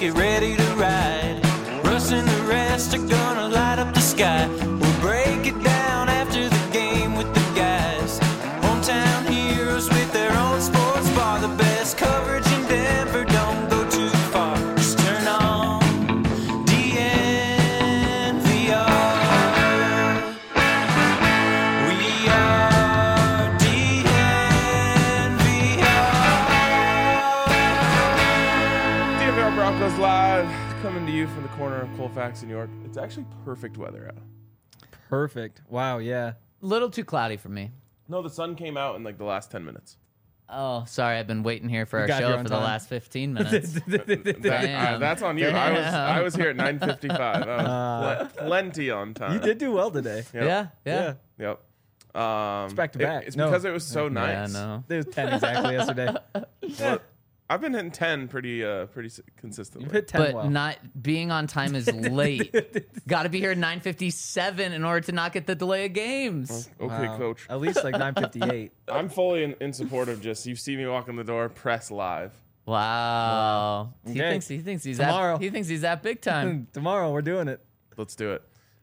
get ready to ride. Russ and the rest are gonna light up the sky. We'll break it down after the game with the guys. Hometown heroes with their own sports bar. The best coverage in Denver, don't go too far. Just turn on DNVR. We are DNVR Broncos Live, coming to you from the corner of Colfax, New York. It's actually perfect weather out. Perfect. Wow, yeah. Little too cloudy for me. No, the sun came out in like the last 10 minutes. Oh, sorry. I've been waiting here for our got here show on for the time. last 15 minutes. Damn. That's on you. I was here at 9:55. Plenty on time. You did do well today. Yeah. Yep. It's back to back. It's No. because it was so nice. Yeah, no. It was 10 exactly yesterday. Well, I've been hitting 10 pretty consistently. You hit 10 But well. not being on time is late. Got to be here at 9:57 in order to not get the delay of games. Okay, Wow. coach. At least like 9:58. I'm fully in support of just you see me walk in the door, press live. Wow. He Okay. thinks he's Tomorrow. he thinks he's that big time. Tomorrow we're doing it. Let's do it.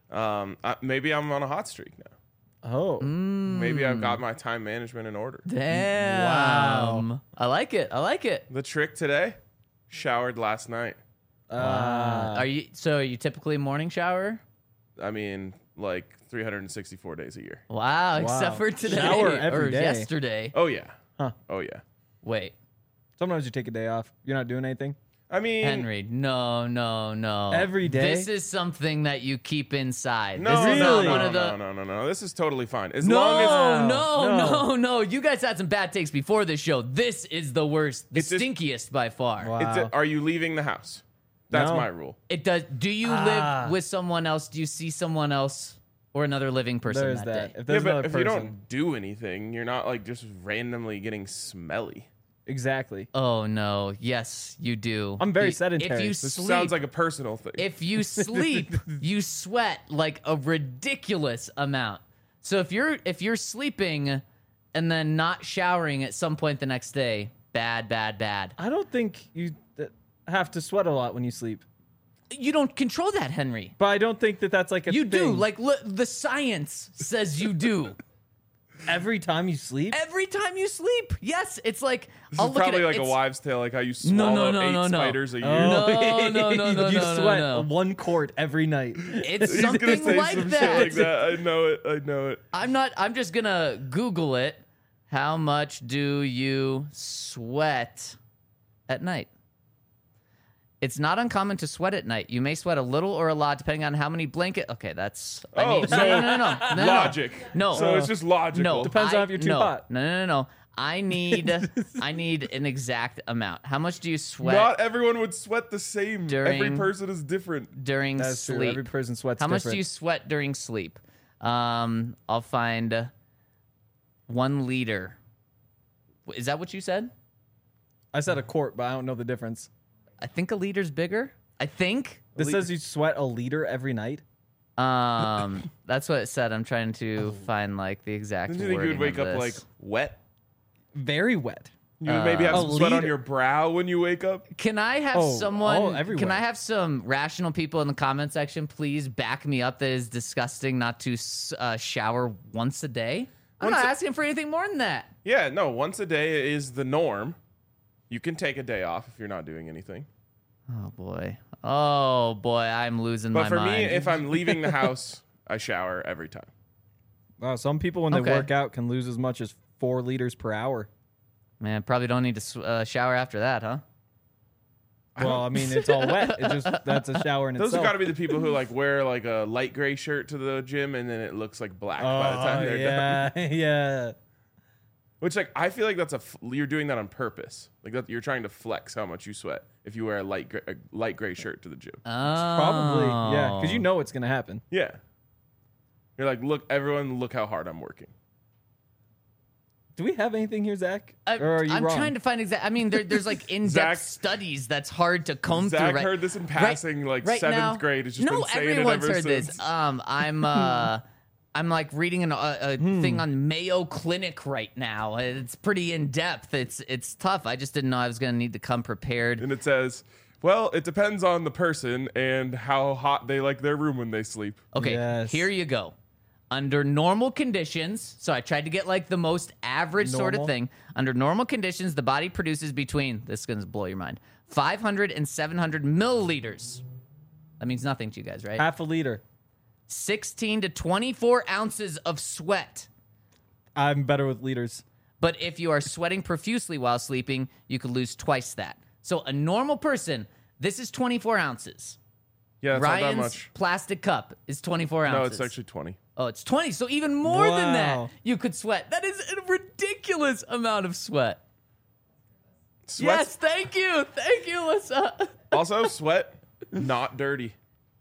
Maybe I'm on a hot streak now. Oh. Maybe I've got my time management in order. Damn. Wow. I like it. The trick today, showered last night. Are you typically a morning shower? I mean, like 364 days a year. Wow, except for today Shower every or day. yesterday. Oh yeah. Huh. Oh yeah. Wait, Sometimes you take a day off. You're not doing anything. I mean, Henry, no. Every day? This is something that you keep inside. no, this is Really? not one of the. no. This is totally fine. As long as No. You guys had some bad takes before this show. This is the worst, the It's just- stinkiest by far. Wow. are you leaving the house? That's No. my rule. It does. Do you live with someone else? Do you see someone else or another living person There's that that. day? If there's yeah, another but if you person. don't do anything, you're not like just randomly getting smelly. Exactly. Oh no! Yes, you do. I'm very If sedentary. you This sleep, sounds like a personal thing. if you sleep, you sweat like a ridiculous amount. So if you're sleeping and then not showering at some point the next day, bad. I don't think you have to sweat a lot when you sleep. You don't control that, Henry. But I don't think that's like a You do. thing. Like the science says you do. Every time you sleep? Every time you sleep. Yes, it's like this I'll is look probably at it. like a It's- wives' tale, like how you swallow eight spiders a year. No. You sweat no. 1 quart every night. It's He's gonna something say like some that. shit like that. I know it. I'm just gonna Google it. How much do you sweat at night? It's not uncommon to sweat at night. You may sweat a little or a lot depending on how many blanket. Okay, that's. Oh, so No. logic. No. So it's just logical. No. Depends on if you're too hot. No. I need an exact amount. How much do you sweat Not everyone would set the same. Every During- person is different. during That's sleep? true. Every person sweats How much different. do you sweat during sleep? I'll find 1 liter. Is that what you said? I said a quart, but I don't know the difference. I think a liter's bigger. I think. This says you sweat a liter every night. That's what it said. I'm trying to find like the exact. Didn't you think you would wording wake of up like this. wet? Very wet. You would maybe have a some sweat on liter- your brow when you wake up. Can I have Oh, someone? everywhere. Can I have some rational people in the comment section please back me up that is disgusting not to shower once a day? I'm not asking for anything more than that. Yeah, no. Once a day is the norm. You can take a day off if you're not doing anything. Oh boy, I'm losing But my for mind. me, if I'm leaving the house, I shower every time. Wow, some people when they Okay. work out can lose as much as 4 liters per hour. Man, probably don't need to shower after that, huh? Well, I mean, it's all wet. That's a shower in Those itself. have got to be the people who like wear like a light gray shirt to the gym and then it looks like black by the time they're done. yeah. Which like I feel like you're doing that on purpose. Like that you're trying to flex how much you sweat if you wear a light gray shirt to the gym. Probably, yeah, because you know it's gonna happen. Yeah. You're like, look, everyone, look how hard I'm working. Do we have anything here, Zach? Or are you I'm wrong? trying to find exact. I mean, there's like in-depth Zach- studies that's hard to comb Zach through. heard this in passing, like right 7th now- grade. It's just no, been saying it everyone's ever heard since. this. I'm like reading a thing on Mayo Clinic right now. It's pretty in depth. It's tough. I just didn't know I was gonna need to come prepared. And it says, Well, it depends on the person and how hot they like their room when they sleep. Okay, Yes. here you go. Under normal conditions, so I tried to get like the most average sort of Normal? thing. Under normal conditions, the body produces between, this is going to blow your mind, 500 and 700 milliliters. That means nothing to you guys, right? Half a liter. 16 to 24 ounces of sweat. I'm better with liters. But if you are sweating profusely while sleeping, you could lose twice that. So a normal person, this is 24 ounces. Yeah, it's not that Ryan's much. plastic cup is 24 ounces. No, it's actually 20. Oh, it's 20. So even more than that, Wow. you could sweat. That is a ridiculous amount of sweat. Sweat. Yes, thank you. Thank you, Alyssa. Also, sweat, not dirty.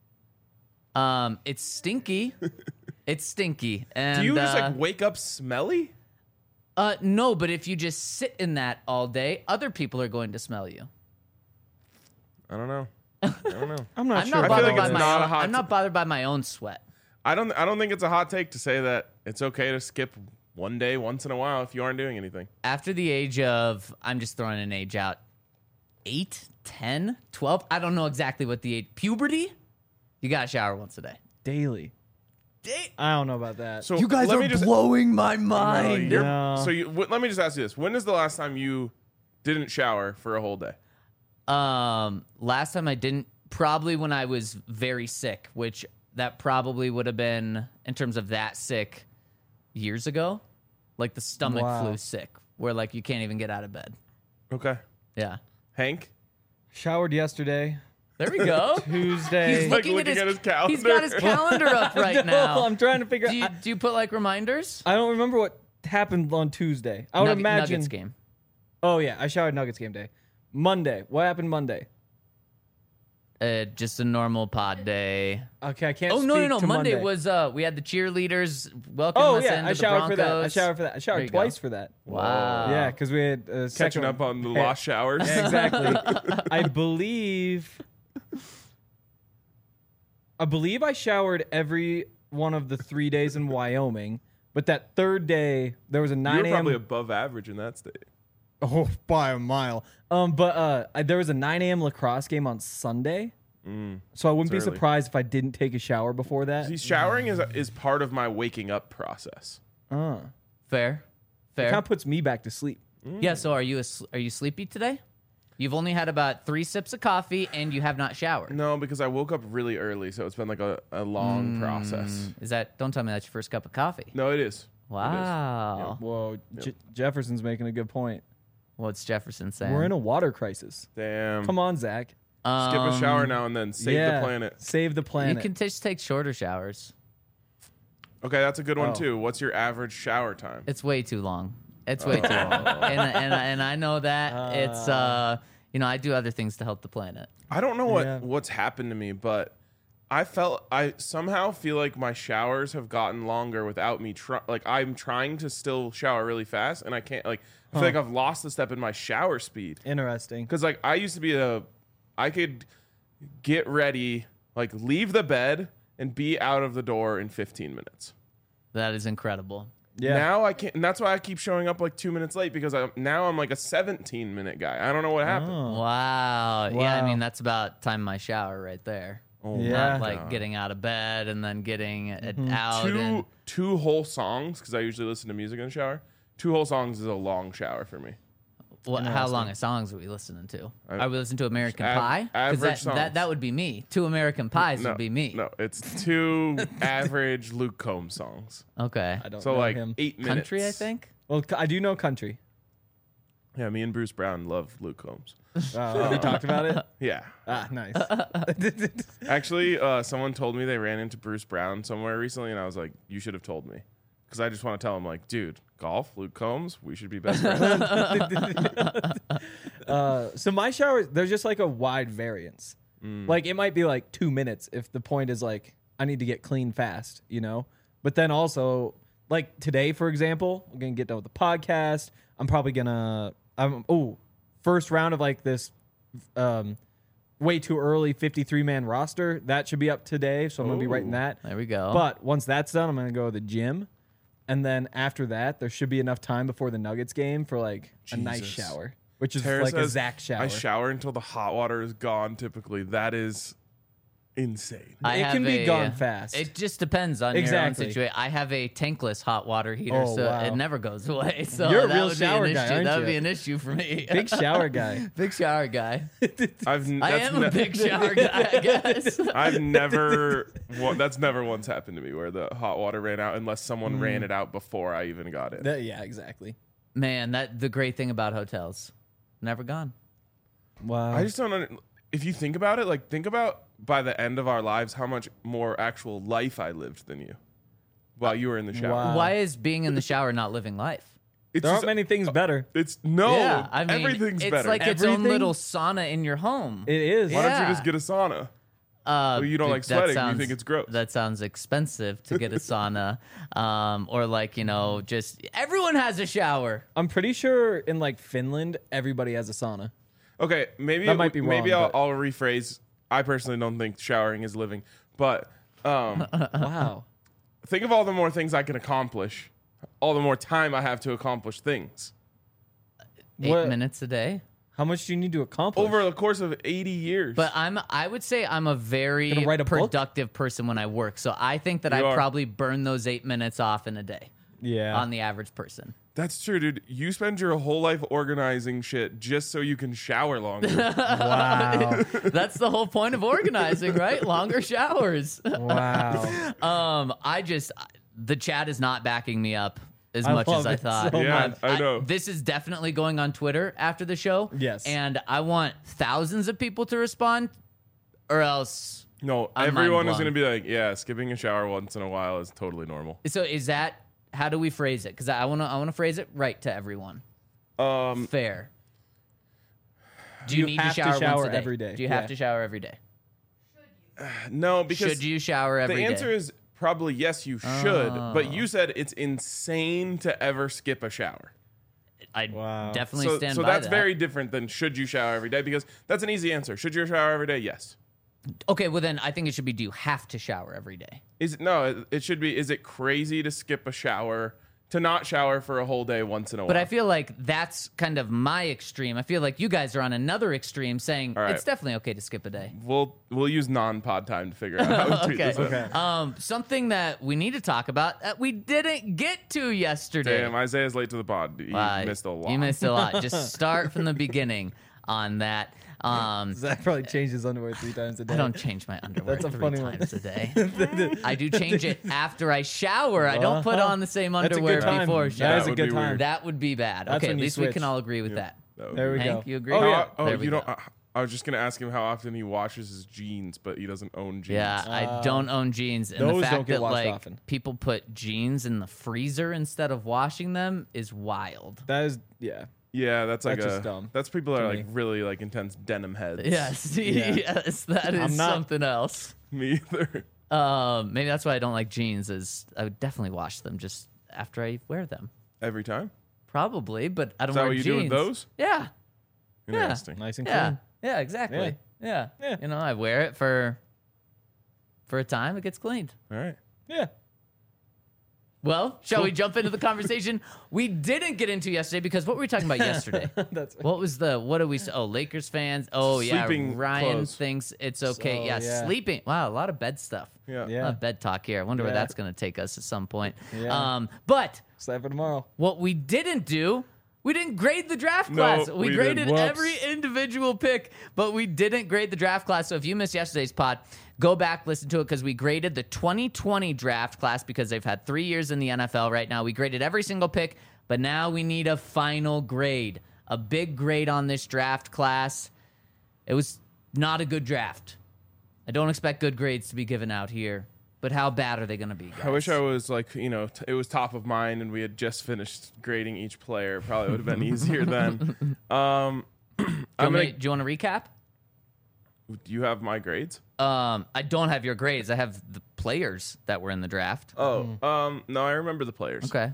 It's stinky. It's stinky. And, Do you just like wake up smelly? no, but if you just sit in that all day, other people are going to smell you. I don't know. I don't know. I'm not I'm sure. not I feel bothered like by it's my not a own. hot I'm not bothered by my own sweat. I don't think it's a hot take to say that it's okay to skip one day once in a while if you aren't doing anything. After the age of, I'm just throwing an age out, 8, 10, 12, I don't know exactly what the age, puberty, you got to shower once a day. Daily. I don't know about that. So You guys let are me just, blowing my No, mind. you're- No. So let me just ask you this: when is the last time you didn't shower for a whole day? Last time I didn't, probably when I was very sick, which that probably would have been, in terms of that sick, years ago. Like the stomach Wow. flu sick, where like you can't even get out of bed. Okay, Yeah. Hank. Showered yesterday. There we go. Tuesday. He's like looking looking at at his his calendar. He's got his calendar up right No, now. I'm trying to figure Do you, out. do you put like reminders? I don't remember what happened on Tuesday. I would imagine. Nuggets game. Oh yeah, I showered Nuggets game day. Monday. What happened Monday? Just a normal pod day. Okay, I can't. Oh no, speak no, no! to Monday was we had the cheerleaders welcome Oh us yeah, into I the showered for that. I Broncos. showered for that. I There showered you twice go. for that. Wow. Yeah, because we had Catching second- up on the Hey, lost showers. yeah, exactly. I believe I showered every one of the 3 days in Wyoming, but that third day there was a 9 You're a.m. probably above average in that state. Oh, by a mile. There was a 9 a.m. lacrosse game on Sunday, so I wouldn't be It's early. surprised if I didn't take a shower before that. See, showering is part of my waking up process. Fair, fair. Kind of puts me back to sleep. Yeah. So are you sleepy today? You've only had about 3 sips of coffee and you have not showered. No, because I woke up really early, so it's been like a long process. Is that? Don't tell me that's your first cup of coffee. No, it is. Wow. Whoa, Jefferson's making a good point. What's Jefferson saying? We're in a water crisis. Damn. Come on, Zach. Skip a shower now and then. Save the planet. Save the You planet. can just take shorter showers. Okay, that's a good one Oh. too. What's your average shower time? It's way too long. It's way too long. And I know that it's I do other things to help the planet. I don't know Yeah. what's happened to me, but I somehow feel like my showers have gotten longer without me I'm trying to still shower really fast and I can't I feel like I've lost a step in my shower speed. Interesting. Cuz I used to be I could get ready, leave the bed and be out of the door in 15 minutes. That is incredible. Yeah. Now I can't, and that's why I keep showing up 2 minutes late because I'm like a 17-minute guy. I don't know what happened. Wow. Yeah, I Wow. mean that's about time my shower right there. Yeah. Not getting out of bed and then getting it out. and, Two whole songs because I usually listen to music in the shower. 2 whole songs is a long shower for me. how long of songs are we listening to? Are we listening to American Av- Pie? 'Cause average songs. that would be me. 2 American Pies would be me. No, it's 2 average Luke Combs songs. Okay. I don't So know him. 8 minutes. Country, I think. Well, I do know country. Yeah, me and Bruce Brown love Luke Combs. Have you talked about it? Yeah. Ah, nice. Actually, someone told me they ran into Bruce Brown somewhere recently, and I was like, you should have told me. Because I just want to tell him, dude, golf, Luke Combs, we should be best friends. So my showers, there's just a wide variance. It might be 2 minutes if the point is I need to get clean fast, But then also, today, for example, I'm gonna get done with the podcast. I'm probably gonna first round of this way too early 53-man roster. That should be up today, so I'm gonna be writing Ooh. that. There we go. But once that's done, I'm gonna go to the gym. And then after that, there should be enough time before the Nuggets game for a nice Jesus. shower. which is Tara like a says, Zach shower. I shower until the hot water is gone. Typically, that is insane. I It have can be a- gone fast. It just depends on Exactly. your own situation. I have a tankless hot water heater, Oh, so wow. it never goes away. So You're a that real would shower be an guy, issue. aren't That would you? be an issue for me. Big shower guy. Big shower guy. I That's am a big shower guy, I guess. I've never. That's never once happened to me where the hot water ran out unless someone ran it out before I even got it. Yeah, exactly. Man, the great thing about hotels, never gone. Wow. I just don't. If you think about it, like think about by the end of our lives how much more actual life I lived than you while you were in the shower. Wow. Why is being in the shower not living life? It's there aren't just- many things better. It's no. Yeah, I mean, everything's it's better. like its own Everything? little sauna in your home. It is. Why don't Yeah. you just get a sauna? Well, you don't like sweating, you think it's gross. That sounds expensive to get a sauna, or like just everyone has a shower. I'm pretty sure in like Finland, everybody has a sauna. Okay, maybe That might be maybe wrong, I'll but- rephrase. I personally don't think showering is living, but Wow. think of all the more things I can accomplish, all the more time I have to accomplish things. 8 What- minutes a day. How much do you need to accomplish? Over the course of 80 years. But I would say I'm a very Gonna write a book? productive person when I work. So I think that You I are. probably burn those 8 minutes off in a day yeah. on the average person. That's true, dude. You spend your whole life organizing shit just so you can shower longer. Wow. That's the whole point of organizing, right? Longer showers. Wow. The chat is not backing me up as I much love as I it thought. so Yeah, much. I know. This is definitely going on Twitter after the show. Yes. And I want thousands of people to respond, or else. No, I'm everyone is mind-blown. going to be like, yeah, skipping a shower once in a while is totally normal. So is that how do we phrase it? Because I want to phrase it right to everyone. Fair. Do you, You need to have to shower, shower once a day? every day. Do you have Yeah. to shower every day? No, because Should you shower every the day? answer is probably yes, you should. But you said it's insane to ever skip a shower. I Wow. definitely So, stand so by that's that. very different than should you shower every day, because that's an easy answer. Should you shower every day? Yes. Okay, well then I think it should be do you have to shower every day? It should be, is it crazy to skip a shower, to not shower for a whole day once in a while? But I feel like that's kind of my extreme. I feel like you guys are on another extreme saying All right. it's definitely okay to skip a day. We'll use non-pod time to figure out how to tweet Okay. this out. Something that we need to talk about that we didn't get to yesterday. Damn, Isaiah's late to the pod. You missed a lot. You missed a lot. Just start from the beginning on that. Zach probably changed his underwear 3 times a day. I don't change my underwear That's a 3 funny one. times a day. I do change it after I shower. I don't put on the same That's a underwear good time. before That shower. is a would good be time. weird. That would be bad. That's Okay, when at you least we switch. can all agree with that. That would There be we Hank, go. you agree? Oh, yeah. There we go. I was just gonna ask him how often he washes his jeans, but he doesn't own jeans. Yeah, I don't own jeans, and the those fact don't get that washed like often. people put jeans in the freezer instead of washing them is wild. That is, yeah. Yeah, that's like That's just dumb That's people that are to like me. really like intense denim heads. Yes, Yeah. yes, that is I'm not- something else. Me either. Maybe that's why I don't like jeans. Is I would definitely wash them just after I wear them. Every time. Probably, but I don't Is that wear what you jeans. do with those? Yeah, Interesting. Nice and yeah, clean. yeah, exactly. Yeah. Yeah. You know, I wear it for a time. It gets cleaned. All right. Yeah. Well, shall we jump into the conversation we didn't get into yesterday? Because what were we talking about yesterday? That's What do we say? Oh, Lakers fans. Oh, yeah. Sleeping Ryan clothes. thinks it's okay. So, yeah, yeah. sleeping. Wow, a lot of bed stuff. Yeah. A Yeah. lot of bed talk here. I wonder where Yeah. that's going to take us at some point. Yeah. But Excited for tomorrow. what we didn't do, we didn't grade the draft No, class. We we graded didn't. every individual pick, but we didn't grade the draft class. So if you missed yesterday's pod, go back, listen to it, because we graded the 2020 draft class because they've had 3 years in the NFL right now. We graded every single pick, but now we need a final grade, a big grade on this draft class. It was not a good draft. I don't expect good grades to be given out here, but how bad are they going to be, guys? I wish I was like, it was top of mind and we had just finished grading each player. Probably would have been easier then. Do you want to recap? Do you have my grades? I don't have your grades. I have the players that were in the draft. Oh, no, I remember the players. Okay.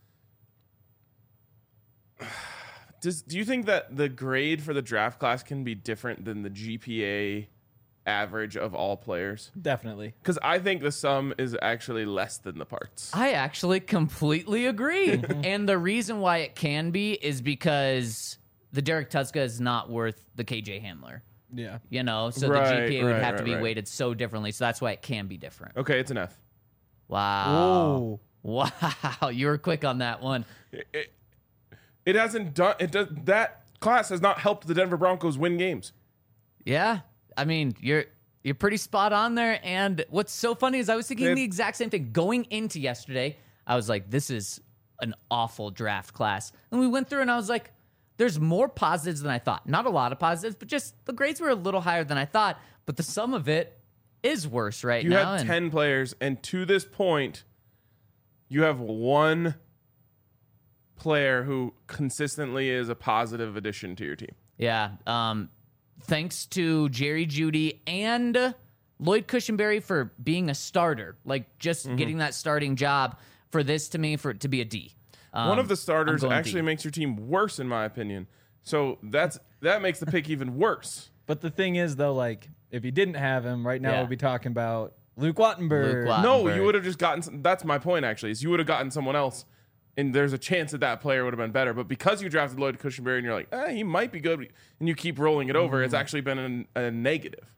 Do you think that the grade for the draft class can be different than the GPA average of all players? Definitely. Because I think the sum is actually less than the parts. I actually completely agree. And the reason why it can be is because the Derek Tuska is not worth the KJ Hamler. Yeah. You know, so Right, the GPA would right, have to right, be right. weighted so differently. So that's why it can be different. Okay, it's an F. Wow. Wow. You were quick on that one. It hasn't done. It does. That class has not helped the Denver Broncos win games. Yeah. I mean, you're pretty spot on there. And what's so funny is I was thinking the exact same thing. Going into yesterday, I was like, this is an awful draft class. And we went through and I was like, there's more positives than I thought. Not a lot of positives, but just the grades were a little higher than I thought. But the sum of it is worse right You now. had and 10 players, and to this point, you have one player who consistently is a positive addition to your team. yeah. Thanks to Jerry Jeudy and Lloyd Cushenberry for being a starter, like just Mm-hmm. getting that starting job for this to me for it to be a D. One of the starters I'm going actually D. makes your team worse, in my opinion. So that makes the pick even worse. But the thing is, though, like, if you didn't have him, right now Yeah. we'll be talking about Luke Wattenberg. Luke Watt- No, Very. you would have just gotten. That's my point. Actually, is you would have gotten someone else, and there's a chance that player would have been better. But because you drafted Lloyd Cushenberry, and you're like, he might be good, and you keep rolling it over, it's actually been a negative.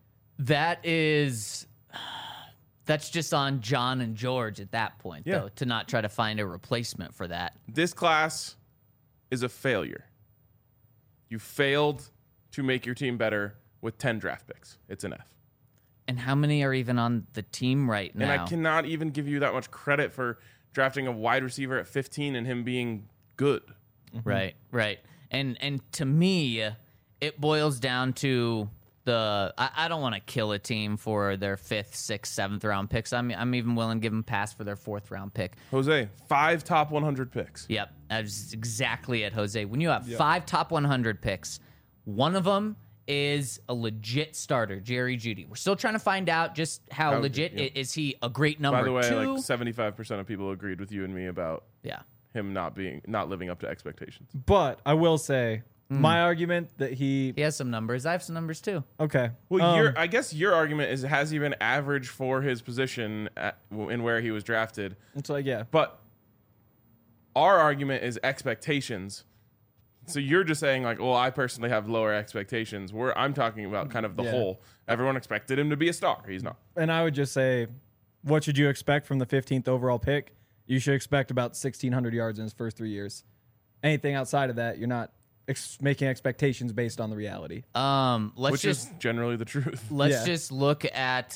That's just on John and George at that point, Yeah. though, to not try to find a replacement for that. This class is a failure. You failed to make your team better with 10 draft picks. It's an F. And how many are even on the team right now? And I cannot even give you that much credit for drafting a wide receiver at 15 and him being good. Right. And to me, it boils down to I don't want to kill a team for their 5th, 6th, 7th round picks. I'm even willing to give them a pass for their 4th round pick. Jose, 5 top 100 picks. Yep, that's exactly it, Jose. When you have 5 top 100 picks, one of them is a legit starter, Jerry Jeudy. We're still trying to find out just how legit is he a great number By the way, 2? like 75% of people agreed with you and me about Yeah. him not living up to expectations. But I will say, my argument that He has some numbers. I have some numbers too. okay. Well, I guess your argument is, has he been average for his position in where he was drafted? it's like, yeah. But our argument is expectations. So you're just saying like, well, I personally have lower expectations. I'm talking about kind of the whole. Everyone expected him to be a star. He's not. And I would just say, what should you expect from the 15th overall pick? You should expect about 1,600 yards in his first 3 years. Anything outside of that, you're not making expectations based on the reality. Let's Is generally the truth. Yeah. just look at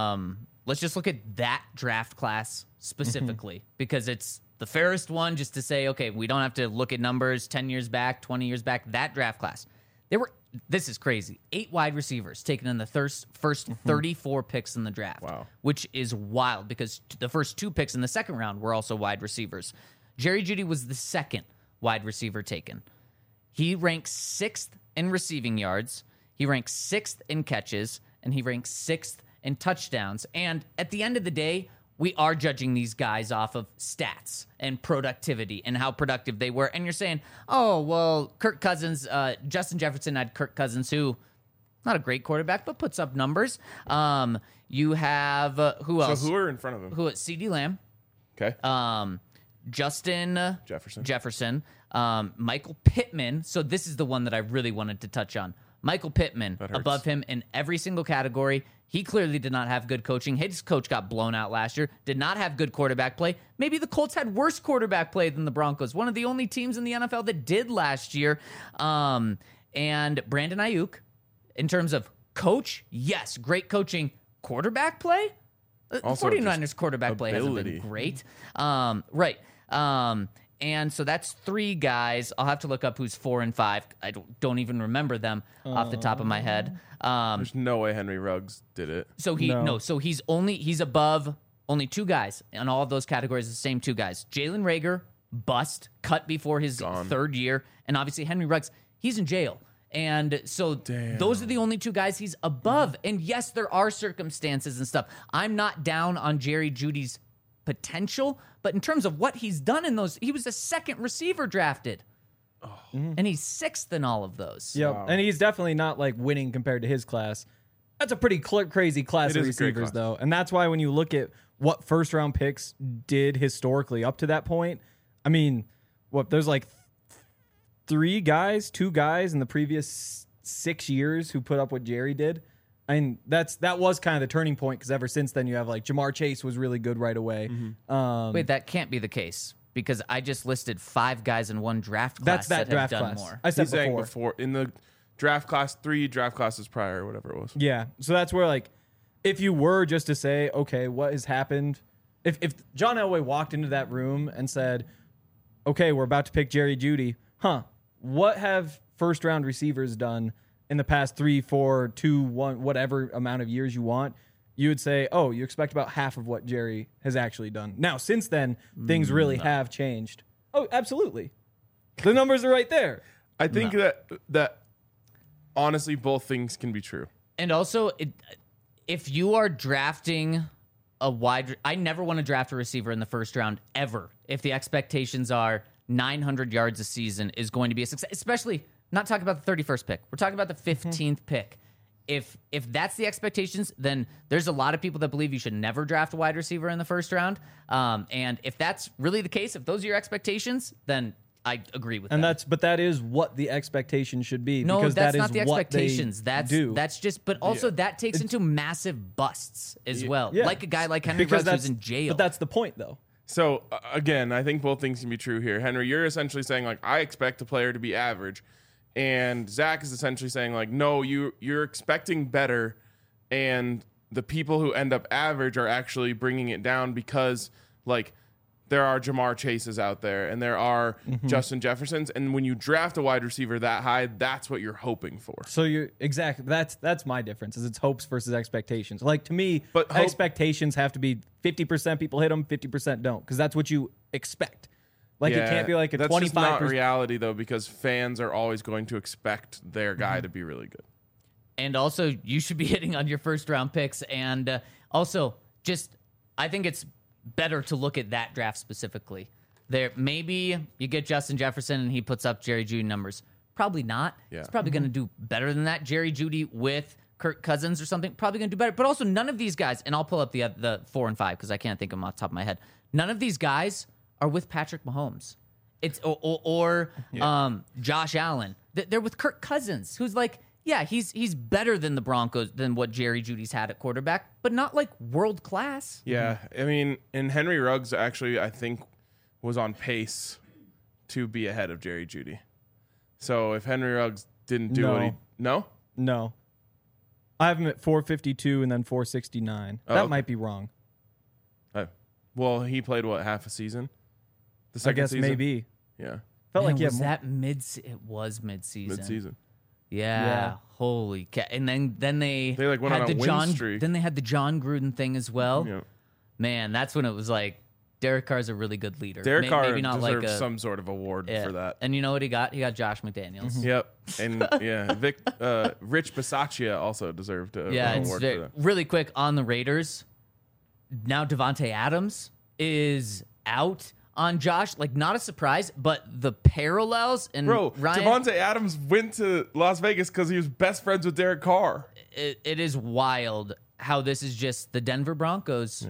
that draft class specifically because it's the fairest one just to say, okay, we don't have to look at numbers 10 years back, 20 years back. That draft class, this is crazy. 8 wide receivers taken in the first 34 picks in the draft. Wow. Which is wild because the first 2 picks in the second round were also wide receivers. Jerry Jeudy was the second wide receiver taken. He ranks 6th in receiving yards. He ranks 6th in catches, and he ranks 6th in touchdowns. And at the end of the day, we are judging these guys off of stats and productivity and how productive they were. And you're saying, oh, well, Kirk Cousins, Justin Jefferson had Kirk Cousins, who not a great quarterback, but puts up numbers. You have, who else? So who are in front of him? Who? CeeDee Lamb. Okay. Justin Jefferson. Michael Pittman. So this is the one that I really wanted to touch on. Michael Pittman hurts. above him in every single category. He clearly did not have good coaching. His coach got blown out last year. Did not have good quarterback play. Maybe the Colts had worse quarterback play than the Broncos. One of the only teams in the NFL that did last year. And Brandon Ayuk, in terms of coach, yes, great coaching. Quarterback play? The Also 49ers quarterback play hasn't ability. been great. Right. And so that's 3 guys. I'll have to look up who's 4 and 5. I don't even remember them off the top of my head. There's no way Henry Ruggs did it. So he's above only 2 guys in all of those categories. The same 2 guys. Jalen Reagor, bust, cut before his 3rd year, and obviously Henry Ruggs, he's in jail. And so those are the only 2 guys he's above. And yes, there are circumstances and stuff. I'm not down on Jerry Jeudy's potential, but in terms of what he's done in those, he was the 2nd receiver drafted. And he's 6th in all of those. Yep. Wow. And he's definitely not like winning compared to his class. That's a pretty crazy class It of is a great receivers, class. though. And that's why when you look at what first round picks did historically up to that point, I mean, there's like 2 guys in the previous 6 years who put up what Jerry did. I mean, that was kind of the turning point because ever since then you have like Jamar Chase was really good right away. Wait, that can't be the case because I just listed 5 guys in one draft class That's that that draft have done class. more. I said He's saying before. in the draft class 3 draft classes prior or whatever it was. Yeah. So that's where, like, if you were just to say, okay, what has happened? If John Elway walked into that room and said, okay, we're about to pick Jerry Jeudy, what have first round receivers done in the past 3, 4, 2, 1, whatever amount of years you want? You would say, oh, you expect about half of what Jerry has actually done. Now, since then, things really have changed. Oh, absolutely. The numbers are right there. I think that honestly both things can be true. And also, if you are drafting I never want to draft a receiver in the first round ever if the expectations are 900 yards a season is going to be a success, especially not talking about the 31st pick. We're talking about the 15th pick. If that's the expectations, then there's a lot of people that believe you should never draft a wide receiver in the first round. And if that's really the case, if those are your expectations, then I agree with that. But that is what the expectation should be. No, because that's that not is the what expectations. they do. That's just, but also that takes into massive busts as well. Yeah. Like a guy like Henry Because Ruggs who's in jail. But that's the point, though. So again, I think both things can be true here. Henry, you're essentially saying like I expect a player to be average, and Zach is essentially saying like no, you're expecting better, and the people who end up average are actually bringing it down because like there are Jamar Chases out there and there are Justin Jeffersons, and when you draft a wide receiver that high, that's what you're hoping for. So you're exactly that's my difference is it's hopes versus expectations. Like to me, But expectations have to be 50% people hit them, 50% don't, because that's what you expect. Like it can't be like a that's 25%. just not reality though, because fans are always going to expect their guy to be really good. And also, you should be hitting on your first round picks. And also, just I think it's better to look at that draft specifically. There, maybe you get Justin Jefferson and he puts up Jerry Jeudy numbers. Probably not. Yeah. He's probably going to do better than that. Jerry Jeudy with Kirk Cousins or something, probably going to do better. But also, none of these guys, and I'll pull up the 4 and 5 because I can't think of them off the top of my head. None of these guys are with Patrick Mahomes. It's or Josh Allen. They're with Kirk Cousins, who's like, yeah, he's better than the Broncos, than what Jerry Jeudy's had at quarterback, but not like world class. Yeah, I mean, and Henry Ruggs actually, I think, was on pace to be ahead of Jerry Jeudy. So if Henry Ruggs didn't do what he... No? No. I have him at 452 and then 469. Oh, that okay. might be wrong. Well, he played, what, half a season? The I second guess season? maybe. Yeah, Felt like was more. that it was mid-season. mid-season. Yeah. Holy cat. And then they like went had on a the win streak. Then they had the John Gruden thing as well. Yeah. Man, that's when it was like Derek Carr's a really good leader. Derek Carr maybe not deserves like some sort of award yeah. for that. And you know what he got? He got Josh McDaniels. Yep. And yeah, Rich Bisaccia also deserved an Yeah, it's award for that. really quick on the Raiders. Now Devontae Adams is out on Josh. Like, not a surprise, but the parallels and Bro, Ryan, Devontae Adams went to Las Vegas because he was best friends with Derek Carr. it is wild how this is just the Denver Broncos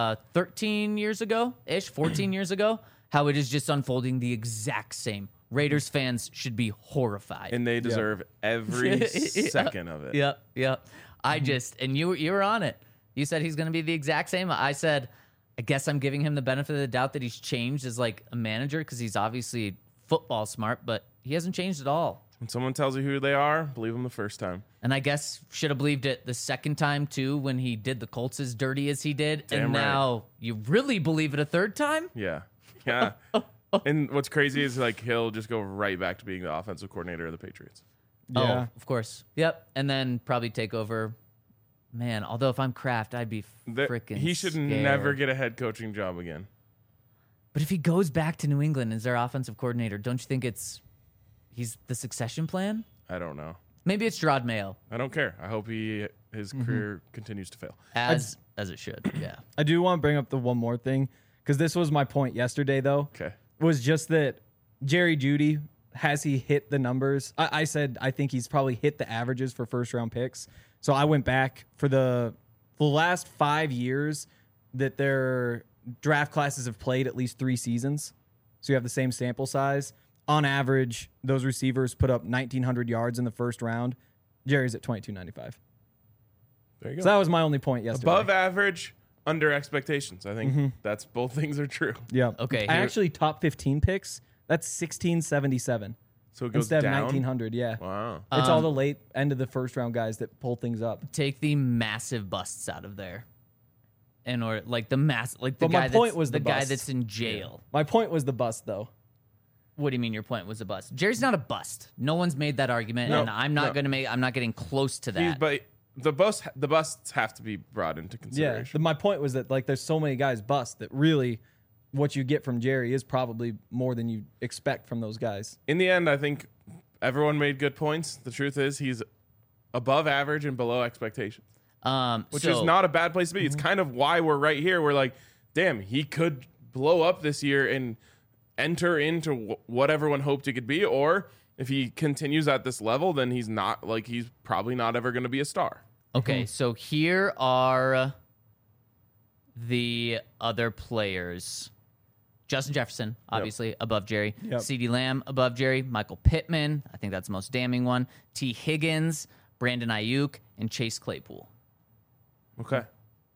13 years ago-ish, 14 years ago, how it is just unfolding the exact same. Raiders fans should be horrified. And they deserve every second of it. Yep. I just, and you were on it. You said he's going to be the exact same. I said, I guess I'm giving him the benefit of the doubt that he's changed as like a manager because he's obviously football smart, but he hasn't changed at all. When someone tells you who they are, believe them the first time. And I guess should have believed it the second time too when he did the Colts as dirty as he did. Damn and right. now you really believe it a third time? Yeah. Yeah. And what's crazy is like he'll just go right back to being the offensive coordinator of the Patriots. Yeah. Oh, of course. Yep. And then probably take over. Man, although if I'm Kraft, I'd be freaking He should scared. never get a head coaching job again. But if he goes back to New England as their offensive coordinator, don't you think he's the succession plan? I don't know. Maybe it's Gerard Mayo, I don't care. I hope his career continues to fail. as it should. Yeah. I do want to bring up the one more thing because this was my point yesterday, though. Okay. Was just that Jerry Jeudy, has he hit the numbers? I said I think he's probably hit the averages for first round picks. So I went back for the last 5 years that their draft classes have played at least 3 seasons. So you have the same sample size. on average, those receivers put up 1,900 yards in the first round. Jerry's at 2,295. There you go. So that was my only point yesterday. Above average, under expectations. I think that's both things are true. Yeah. Okay, I here- actually top 15 picks. That's 1,677 So it goes instead down. of 1,900. Yeah. Wow. It's all the late end of the first round guys that pull things up. Take the massive busts out of there. Or like the like the But my guy point that's was the the guy bust. that's in jail. My point was the bust, though. What do you mean your point was a bust? Jerry's not a bust. No one's made that argument, No, and I'm not no. going to make. I'm not getting close to that. But the busts have to be brought into Yeah. consideration. My point was that like there's so many guys bust that really what you get from Jerry is probably more than you expect from those guys. In the end, I think everyone made good points. The truth is he's above average and below expectations, which is not a bad place to be. It's kind of why we're right here. We're like, damn, he could blow up this year and enter into what everyone hoped he could be. Or if he continues at this level, then he's probably not ever going to be a star. Okay, so here are the other players. Justin Jefferson, obviously, above Jerry. Yep. CeeDee Lamb, above Jerry. Michael Pittman, I think that's the most damning one. T. Higgins, Brandon Ayuk, and Chase Claypool. Okay.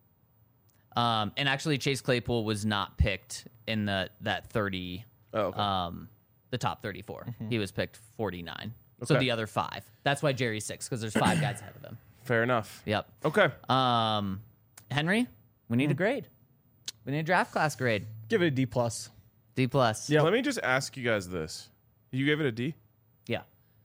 And actually, Chase Claypool was not picked in that 30, Oh, okay. the top 34. He was picked 49. So Okay. the other 5. That's why Jerry's 6, because there's 5 guys ahead of him. Fair enough. Yep. Okay. Henry, we need a grade. We need a draft class grade. Give it a D plus. D plus. Yep. Let me just ask you guys this. You gave it a D? Yeah.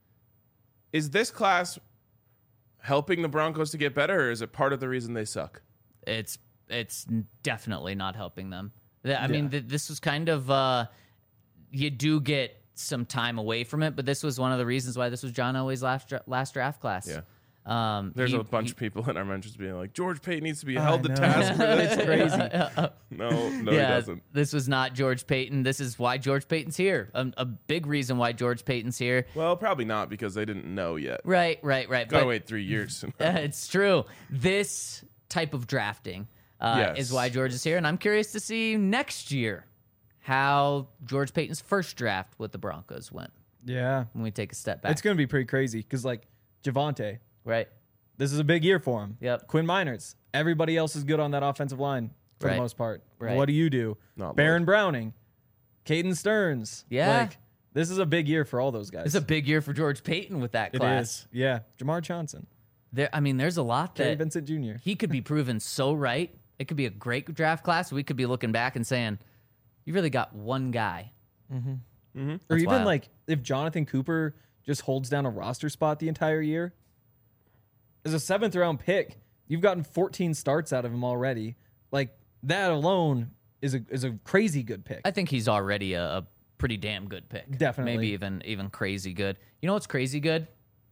Is this class helping the Broncos to get better, or is it part of the reason they suck? It's definitely not helping them. I mean, this was kind of you do get some time away from it, but this was one of the reasons why this was John Elway's last draft class. Yeah. There's a bunch of people in our mentions being like, George Payton needs to be held to know. task for this. It's crazy. No, he doesn't. This was not George Payton. This is why George Payton's here. A big reason why George Payton's here. Well, probably not because they didn't know yet. Right. Gotta But wait 3 years. it's true. This type of drafting Yes. is why George is here, and I'm curious to see next year how George Payton's first draft with the Broncos went Yeah. when we take a step back. It's going to be pretty crazy because, like, Javonte, right. this is a big year for him. Yep. Quinn Miners, everybody else is good on that offensive line for Right. the most part. Right. What do you do? Not Baron much. Browning, Caden Stearns. Yeah. Like, this is a big year for all those guys. It's a big year for George Payton with that It class. is. Yeah. Jamar Johnson, There's a lot Terry that Vincent Jr. he could be proven so right. It could be a great draft class. We could be looking back and saying, you really got one guy. Or That's even wild. like if Jonathan Cooper just holds down a roster spot the entire year, as a 7th round pick, you've gotten 14 starts out of him already. Like that alone is a crazy good pick. I think he's already a pretty damn good pick. Definitely. Maybe even crazy good. You know what's crazy good?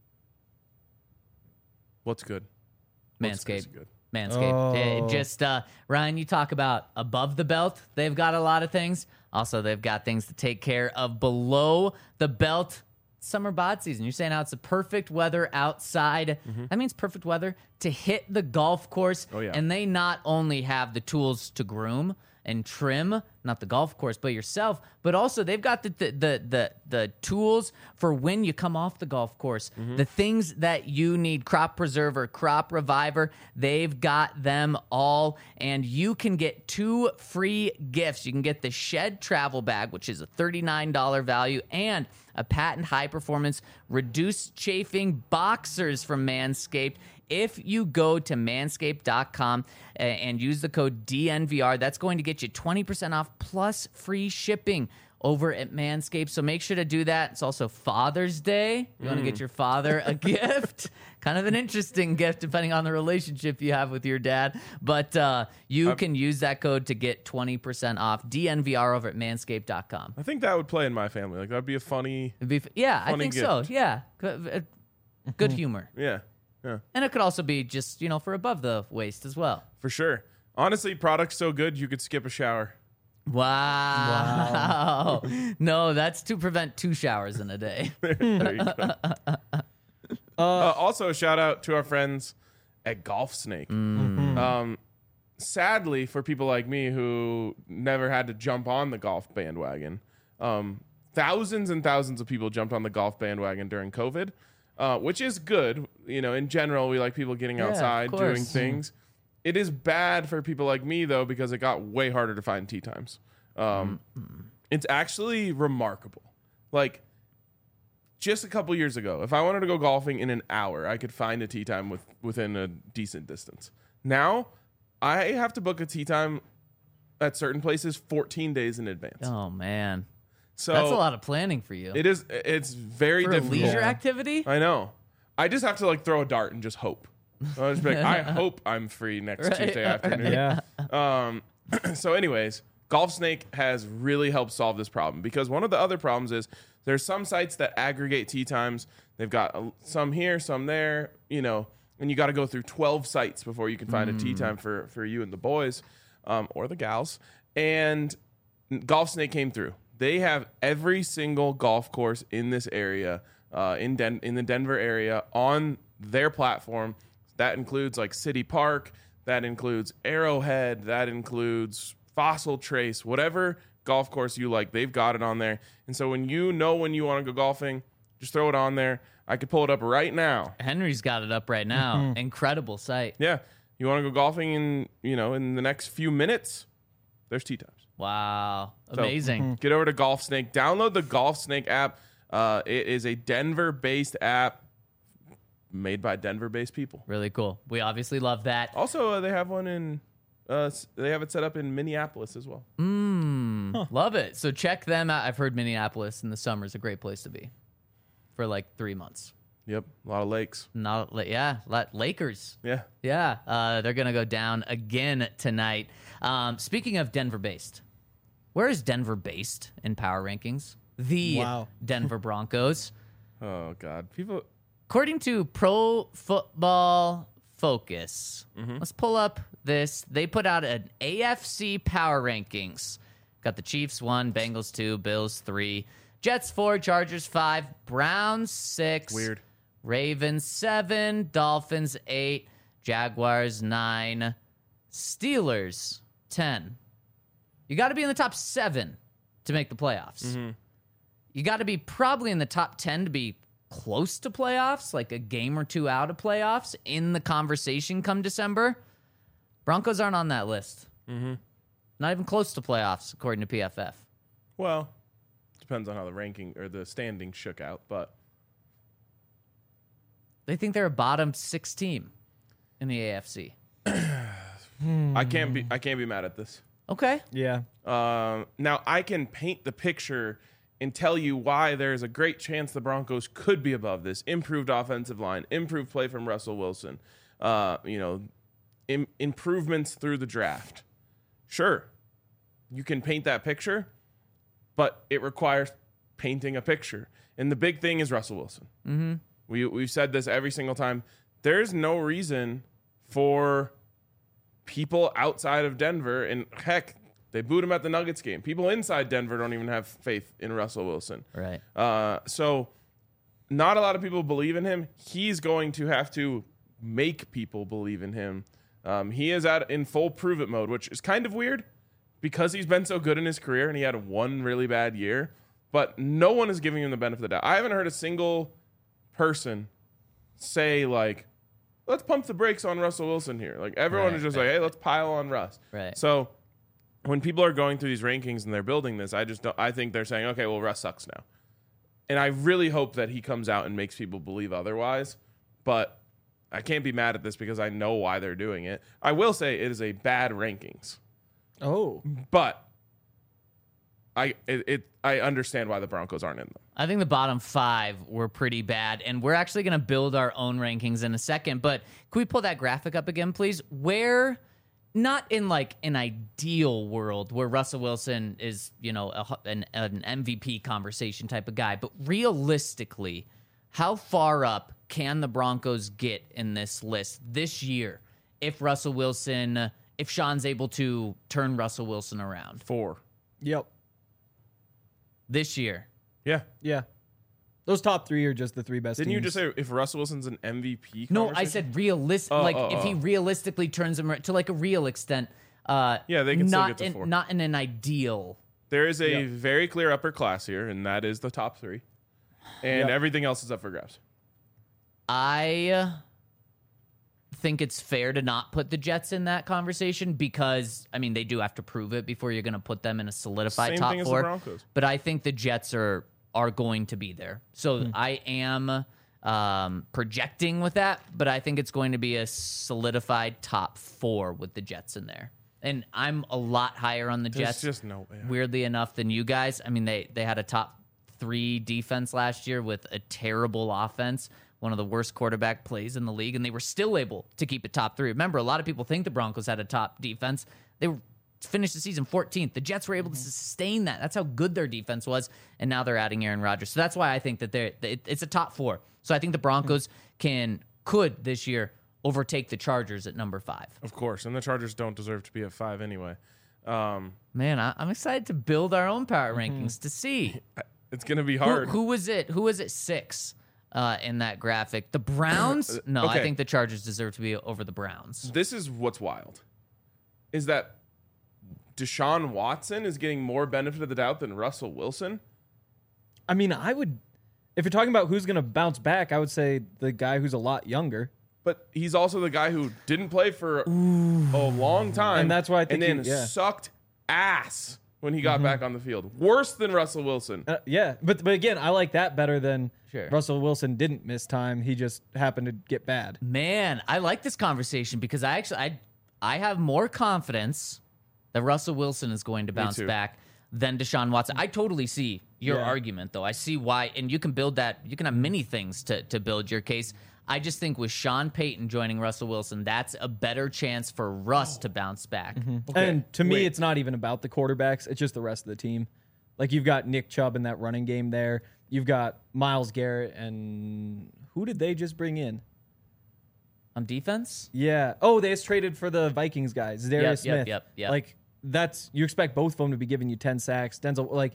What's good? What's crazy Manscaped. good? Manscaped. Oh. Just Ryan, you talk about above the belt. They've got a lot of things. Also, they've got things to take care of below the belt. Summer bod season. You're saying how it's the perfect weather outside. That means perfect weather to hit the golf course. Oh, yeah. And they not only have the tools to groom and trim, not the golf course, but yourself, but also they've got the tools for when you come off the golf course. The things that you need, crop preserver, crop reviver, they've got them all. And you can get 2 free gifts. You can get the Shed travel bag, which is a $39 value, and a patent high performance reduced chafing boxers from Manscaped. If you go to manscaped.com and use the code DNVR, that's going to get you 20% off plus free shipping over at Manscaped. So make sure to do that. It's also Father's Day. You want to get your father a gift. Kind of an interesting gift depending on the relationship you have with your dad. But you can use that code to get 20% off DNVR over at manscaped.com. I think that would play in my family. Like that'd be a funny. I Funny think so. gift. Yeah. Good humor. Yeah. And it could also be just, for above the waist as well. For sure. Honestly, product's so good you could skip a shower. Wow. No, that's to prevent 2 showers in a day. There you go. Also, a shout out to our friends at Golf Snake. Sadly, for people like me who never had to jump on the golf bandwagon, thousands and thousands of people jumped on the golf bandwagon during COVID, which is good. You know, in general, we like people getting Yeah, of outside, doing course. things. It is bad for people like me, though, because it got way harder to find tee times. It's actually remarkable. Like, just a couple years ago, if I wanted to go golfing in an hour, I could find a tee time within a decent distance. Now, I have to book a tee time at certain places 14 days in advance. Oh man, So that's a lot of planning for you. It is. It's very for a difficult. leisure activity. I know. I just have to like throw a dart and just hope. I'll just be like, I hope I'm free next Tuesday afternoon. Yeah. So, anyways, Golf Snake has really helped solve this problem because one of the other problems is there's some sites that aggregate tee times. They've got some here, some there, you know, and you got to go through 12 sites before you can find a tee time for you and the boys or the gals. And Golf Snake came through. They have every single golf course in this area, in the Denver area, on their platform. That includes like City Park. That includes Arrowhead. That includes Fossil Trace. Whatever golf course you like, they've got it on there. And so when you want to go golfing, just throw it on there. I could pull it up right now. Henry's got it up right now. Incredible site. Yeah. You want to go golfing in the next few minutes? There's tee times. Wow, So, amazing. Get over to Golf Snake. Download the Golf Snake app. It is a Denver-based app made by Denver-based people. Really cool. We obviously love that. Also, they have one in. They have it set up in Minneapolis as well. Love it. So check them out. I've heard Minneapolis in the summer is a great place to be for like 3 months. Yep, a lot of lakes. Lakers. Yeah. Yeah, they're gonna go down again tonight. Speaking of Denver-based, where is Denver based in power rankings? The Wow. Denver Broncos. Oh God, people. According to Pro Football Focus, let's pull up this. They put out an AFC power rankings. Got the Chiefs 1, Bengals 2, Bills 3, Jets 4, Chargers 5, Browns 6, Weird. Ravens 7, Dolphins 8, Jaguars 9, Steelers 10. You got to be in the top 7 to make the playoffs. You got to be probably in the top 10 to be close to playoffs, like a game or two out of playoffs in the conversation come December. Broncos aren't on that list. Not even close to playoffs, according to PFF. Well, depends on how the ranking or the standings shook out, but They think they're a bottom 6 team in the AFC. I can't be mad at this. Okay. Yeah. Now I can paint the picture and tell you why there's a great chance the Broncos could be above this. Improved offensive line, improved play from Russell Wilson, improvements through the draft. Sure, you can paint that picture, but it requires painting a picture. And the big thing is Russell Wilson. We've said this every single time. There's no reason for people outside of Denver, and heck, they booed him at the Nuggets game. People inside Denver don't even have faith in Russell Wilson. Right. So not a lot of people believe in him. He's going to have to make people believe in him. He is in full prove it mode, which is kind of weird because he's been so good in his career and he had one really bad year, but no one is giving him the benefit of the doubt. I haven't heard a single person say like, let's pump the brakes on Russell Wilson here. Like everyone is just like, hey, let's pile on Russ. Right. So when people are going through these rankings and they're building this, I think they're saying, okay, well, Russ sucks now. And I really hope that he comes out and makes people believe otherwise. But I can't be mad at this because I know why they're doing it. I will say it is a bad rankings. Oh. But I understand why the Broncos aren't in them. I think the bottom 5 were pretty bad, and we're actually going to build our own rankings in a second. But can we pull that graphic up again, please? Where, not in like an ideal world where Russell Wilson is, an MVP conversation type of guy, but realistically, how far up can the Broncos get in this list this year if Sean's able to turn Russell Wilson around 4. Yep. this year? Yeah. Yeah. Those top 3 are just the 3 best Didn't you teams. just say if Russell Wilson's an MVP? No, I conversation? said realistic. If he realistically turns him to like a real extent. Yeah, they can still not get to 4. not in an ideal There is a Yep. very clear upper class here, and that is the top 3. And Yep. everything else is up for grabs. I think it's fair to not put the Jets in that conversation because, I mean, they do have to prove it before you're going to put them in a solidified Same top thing as the 4. Broncos. But I think the Jets are going to be there. So I am projecting with that, but I think it's going to be a solidified top 4 with the Jets in there. And I'm a lot higher on the There's Jets. just no way. Weirdly enough than you guys. I mean, they had a top 3 defense last year with a terrible offense, one of the worst quarterback plays in the league, and they were still able to keep it top 3. Remember, a lot of people think the Broncos had a top defense. They finished the season 14th. The Jets were able to sustain that. That's how good their defense was, and now they're adding Aaron Rodgers. So that's why I think that it's a top 4. So I think the Broncos could this year overtake the Chargers at number 5. Of course, and the Chargers don't deserve to be at 5 anyway. Man, I'm excited to build our own power rankings to see. It's going to be hard. Who was it? Who was it 6 in that graphic? The Browns? No, I Okay. think the Chargers deserve to be over the Browns. This is what's wild, is that Deshaun Watson is getting more benefit of the doubt than Russell Wilson. I mean, if you're talking about who's going to bounce back, I would say the guy who's a lot younger. But he's also the guy who didn't play for a long time. And that's why I think and then he- yeah. sucked ass when he got back on the field. Worse than Russell Wilson. Yeah, but again, I like that better than Sure. Russell Wilson didn't miss time. He just happened to get bad. Man, I like this conversation because I have more confidence that Russell Wilson is going to bounce too. back than Deshaun Watson. I totally see your Yeah. argument, though. I see why, and you can build that. You can have many things to build your case. I just think with Sean Payton joining Russell Wilson, that's a better chance for Russ to bounce back. And to me, wait. it's not even about the quarterbacks. It's just the rest of the team. Like, you've got Nick Chubb in that running game there. You've got Myles Garrett, and who did they just bring in? On defense? Yeah. Oh, they just traded for the Vikings guys, Darius Yep, Smith. yep. Like, you expect both of them to be giving you 10 sacks. Denzel, like,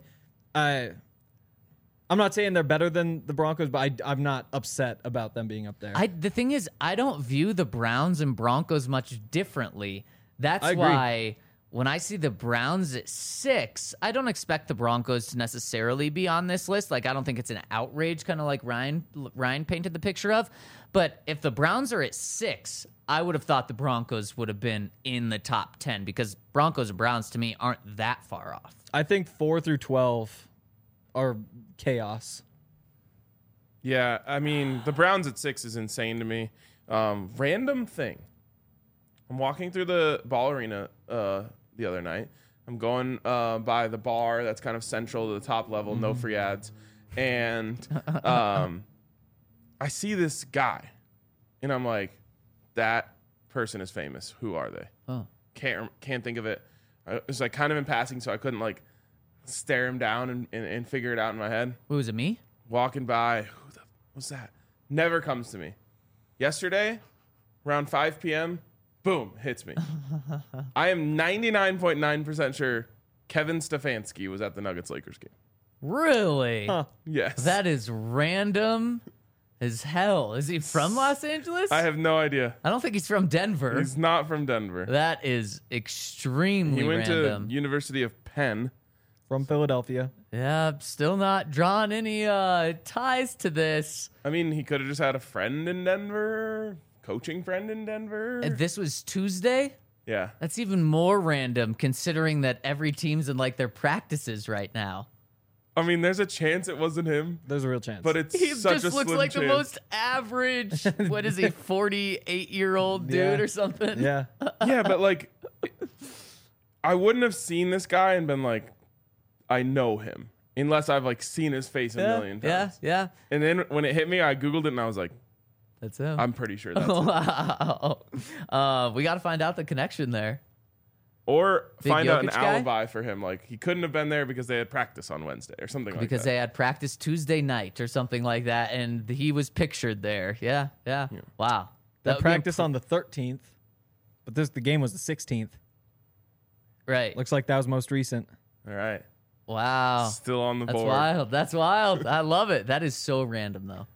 I'm not saying they're better than the Broncos, but I'm not upset about them being up there. The thing is, I don't view the Browns and Broncos much differently. That's I agree. why when I see the Browns at 6, I don't expect the Broncos to necessarily be on this list. Like, I don't think it's an outrage, kind of like Ryan painted the picture of. But if the Browns are at 6, I would have thought the Broncos would have been in the top 10 because Broncos and Browns, to me, aren't that far off. I think 4 through 12 are chaos. Yeah, I mean, the Browns at 6 is insane to me. Random thing. I'm walking through the ball arena the other night. I'm going by the bar that's kind of central to the top level, no free ads. And I see this guy, and I'm like, that person is famous. Who are they? Oh. Can't think of it. It was like kind of in passing, so I couldn't like stare him down and figure it out in my head. Who was it, me? Walking by, who the was that? Never comes to me. Yesterday, around 5 p.m., boom, hits me. I am 99.9% sure Kevin Stefanski was at the Nuggets-Lakers game. Really? Huh. Yes. That is random as hell. Is he from Los Angeles? I have no idea. I don't think he's from Denver. He's not from Denver. That is extremely He went random. to University of Penn. From Philadelphia. Yeah, still not drawing any ties to this. I mean, he could have just had a friend in Denver, coaching friend in Denver. And this was Tuesday? Yeah. That's even more random considering that every team's in like their practices right now. I mean, there's a chance it wasn't him, There's a real chance. but it's He such a just looks slim like chance. the most average, what is he, 48-year-old dude Yeah. or something? yeah. Yeah, but like, I wouldn't have seen this guy and been like, I know him, unless I've like seen his face a million times. Yeah. And then when it hit me, I Googled it and I was like, That's him. I'm pretty sure that's him. Wow. We got to find out the connection there. Or Big find out an Jokic guy? alibi for him. Like, he couldn't have been there because they had practice on Wednesday or something like Because that. they had practice Tuesday night or something like that, and he was pictured there. Yeah. Wow. That would be practice on the 13th, but the game was the 16th. right. Looks like that was most recent. All right. Wow. Still on the That's board. wild. That's wild. I love it. That is so random, though.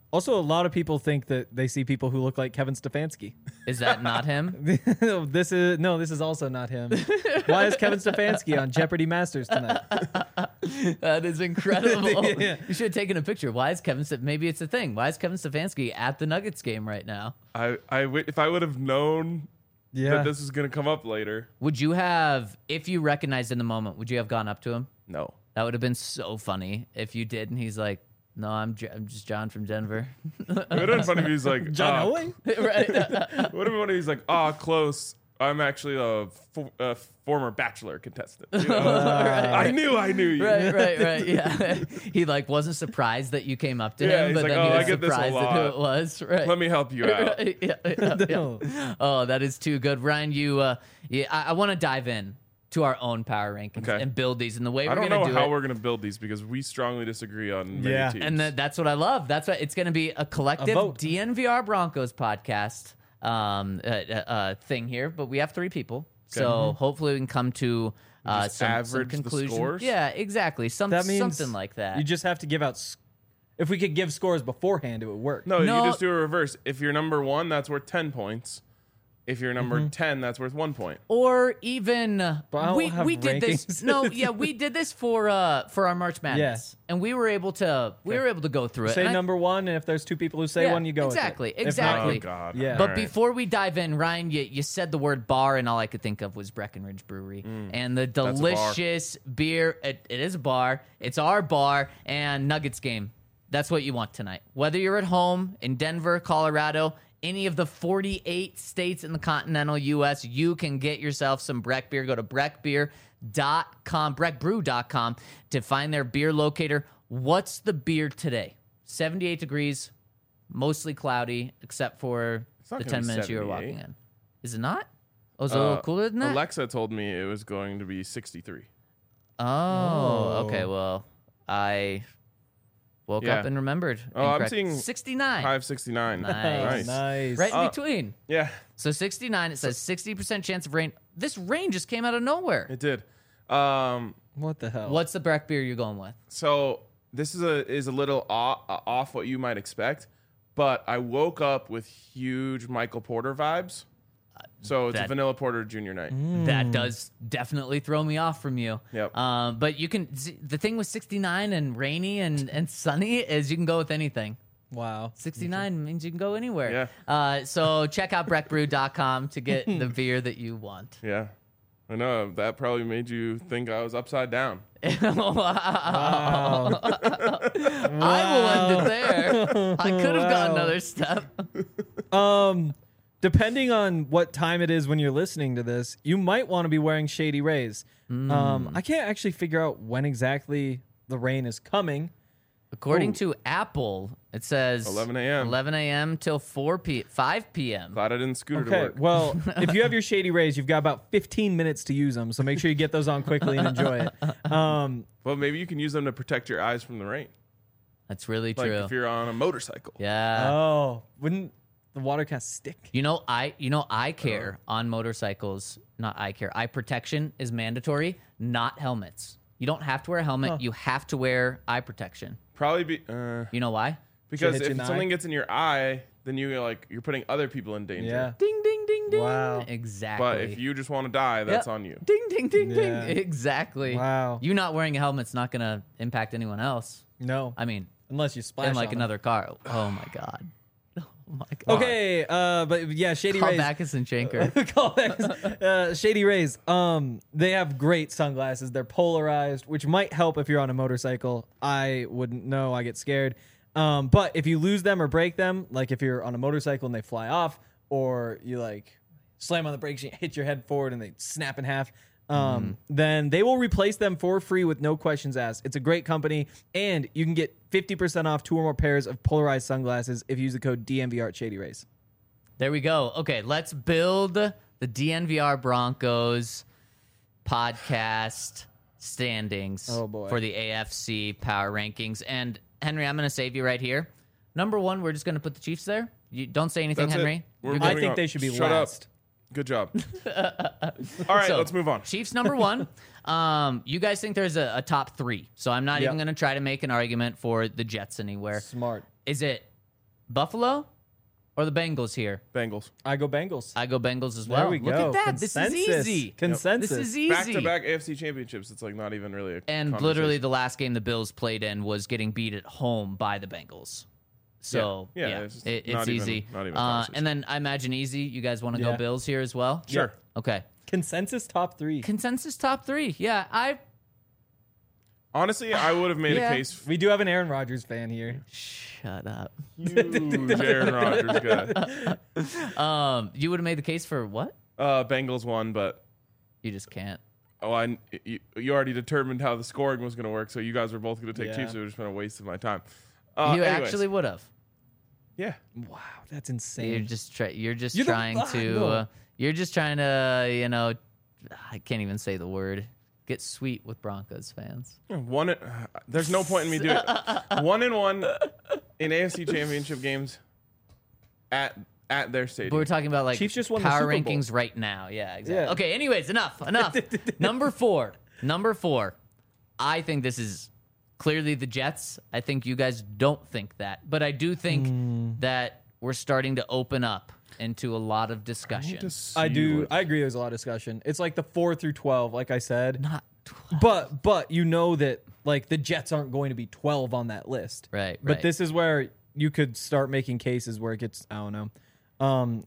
Also, a lot of people think that they see people who look like Kevin Stefanski. Is that not him? This is also not him. Why is Kevin Stefanski on Jeopardy Masters tonight? That is incredible. Yeah. You should have taken a picture. Why is maybe it's a thing. Why is Kevin Stefanski at the Nuggets game right now? If I would have known that this was going to come up later. Would you have, if you recognized in the moment, would you have gone up to him? No. That would have been so funny if you did, and he's like, "No, I'm just John from Denver." It would have been funny if he's like, John Owen? Right. It would have been funny if he's like, close. I'm actually a former Bachelor contestant. You know? I knew you. Right. Yeah. He like wasn't surprised that you came up to Yeah, him, he's but like, then "Oh, he I was get this a surprised at who lot. it was. Right. Let me help you out. Right, yeah. Oh, that is too good, Ryan. I want to dive in to our own power rankings Okay. and build these. And the way I we're don't going know to do how it, we're going to build these because we strongly disagree on many Yeah. teams. and that's what I love. That's what it's going to be, a collective vote. DNVR Broncos podcast thing here. But we have 3 people, so hopefully we can come to Just some average the conclusion. scores? Yeah, exactly. That means Something like that. You just have to give out. If we could give scores beforehand, it would work. No, No. you just do a reverse. If you're number 1, that's worth 10 points. If you're number 10, that's worth 1 point. Or even I don't have we did this. rankings. No, yeah, we did this for our March Madness, and we were able to go through it. Say And number 1, and if there's 2 people who say Yeah, one, you go exactly, with it. If exactly. Oh, God. Yeah. But All right. before we dive in, Ryan, you said the word bar, and all I could think of was Breckenridge Brewery and the a bar. delicious beer. It is a bar. It's our bar and Nuggets game. That's what you want tonight. Whether you're at home in Denver, Colorado, any of the 48 states in the continental U.S., you can get yourself some Breck beer. Go to breckbeer.com, breckbrew.com to find their beer locator. What's the beer today? 78 degrees, mostly cloudy, except for not the gonna 10 be minutes you were 78. walking in. Is it not? Oh, is it a little cooler than that? Alexa told me it was going to be 63. Oh, okay. Well, I woke Yeah. up and remembered. Oh, I'm Incorrect. seeing 69. 569. Nice. Nice. Right in between. Yeah, So 69, it says 60% chance of rain. This rain just came out of nowhere. it did. What the hell? What's the Breck beer you're going with? So this is a little off what you might expect, but I woke up with huge Michael Porter vibes. So it's a that- vanilla porter junior night. That does definitely throw me off from you. Yep. But you can, the thing with 69 and rainy and sunny is you can go with anything. Wow. 69 means you can go anywhere. Yeah. So check out breckbrew.com to get the beer that you want. Yeah, I know that probably made you think I was upside down. Wow. I will end it there. I could have gone another step. Depending on what time it is when you're listening to this, you might want to be wearing Shady Rays. I can't actually figure out when exactly the rain is coming. According to Apple, it says 11 a.m. 11 a.m. till 5 p.m. Glad I didn't scooter to Okay, work. well, if you have your Shady Rays, you've got about 15 minutes to use them, so make sure you get those on quickly and enjoy it. Well, maybe you can use them to protect your eyes from the rain. That's really Like true. if you're on a motorcycle. Yeah. Oh, wouldn't the water kind of stick? I care on motorcycles. Not I care. Eye protection is mandatory, not helmets. You don't have to wear a helmet. You have to wear eye protection. Probably be You know why? because hit you in if the something eye? gets in your eye, then you're putting other people in danger. Yeah. Ding, ding, ding, ding. Wow. Exactly. But if you just want to die, that's Yep. on you. Ding, ding, ding, Yeah. ding. Exactly. Wow. You not wearing a helmet's not going to impact anyone else. No, I mean, unless you splash in like on 'em. another car. Oh, my God. Oh, my God. Okay, but yeah, Shady Call Rays. Backus and Shanker. Callbacks. Shady Rays. They have great sunglasses. They're polarized, which might help if you're on a motorcycle. I wouldn't know. I get scared. But if you lose them or break them, like if you're on a motorcycle and they fly off, or you like slam on the brakes and you hit your head forward and they snap in half, then they will replace them for free with no questions asked. It's a great company, and you can get 50% off 2 or more pairs of polarized sunglasses if you use the code DMVR at Shady Rays. There we go. Okay, let's build the DNVR Broncos podcast standings Oh, boy. for the AFC power rankings. And Henry, I'm going to save you right here. Number 1, we're just going to put the Chiefs there. You don't say anything, That's Henry. it. We're I moving think on. they should be Shut last. up. Good job. All right, So, let's move on. Chiefs number 1. You guys think there's a top 3. So I'm not Yeah. even going to try to make an argument for the Jets anywhere. Smart. Is it Buffalo or the Bengals here? Bengals. I go Bengals. I go Bengals as well. There we Look go. at that. This is easy. Consensus. This is easy. Back-to-back AFC championships. It's like not even really a And conversation. literally the last game the Bills played in was getting beat at home by the Bengals. So, Yeah. yeah, It's just it's not even- easy. not even a conversation. And then I imagine easy. You guys want to go Yeah. Bills here as well? Sure. Okay. Consensus top 3. Consensus top 3. Yeah, Honestly, I would have made Yeah. a case. We do have an Aaron Rodgers fan here. Shut up. Huge Aaron Rodgers guy. You would have made the case for what? Bengals won, but You just can't. you already determined how the scoring was going to work, so you guys were both going to take Yeah. Chiefs. So it was just been a waste of my time. You Anyways. actually would have. Yeah. Wow, that's insane. You're just You're the- trying to. no. You're just trying to. I can't even say the word. Get sweet with Broncos fans. There's no point in me doing it. 1-1 in AFC Championship games at their stadium. But we're talking about like Chiefs just won the power Super Bowl. rankings right now. Yeah, exactly. Yeah. Okay. Anyways, enough. Number four. I think this is clearly the Jets. I think you guys don't think that, but I do think that we're starting to open up into a lot of discussion. I do. I agree. There's a lot of discussion. It's like the 4 through 12, like I said. Not 12. But you know that like the Jets aren't going to be 12 on that list. Right. But this is where you could start making cases where it gets. I don't know.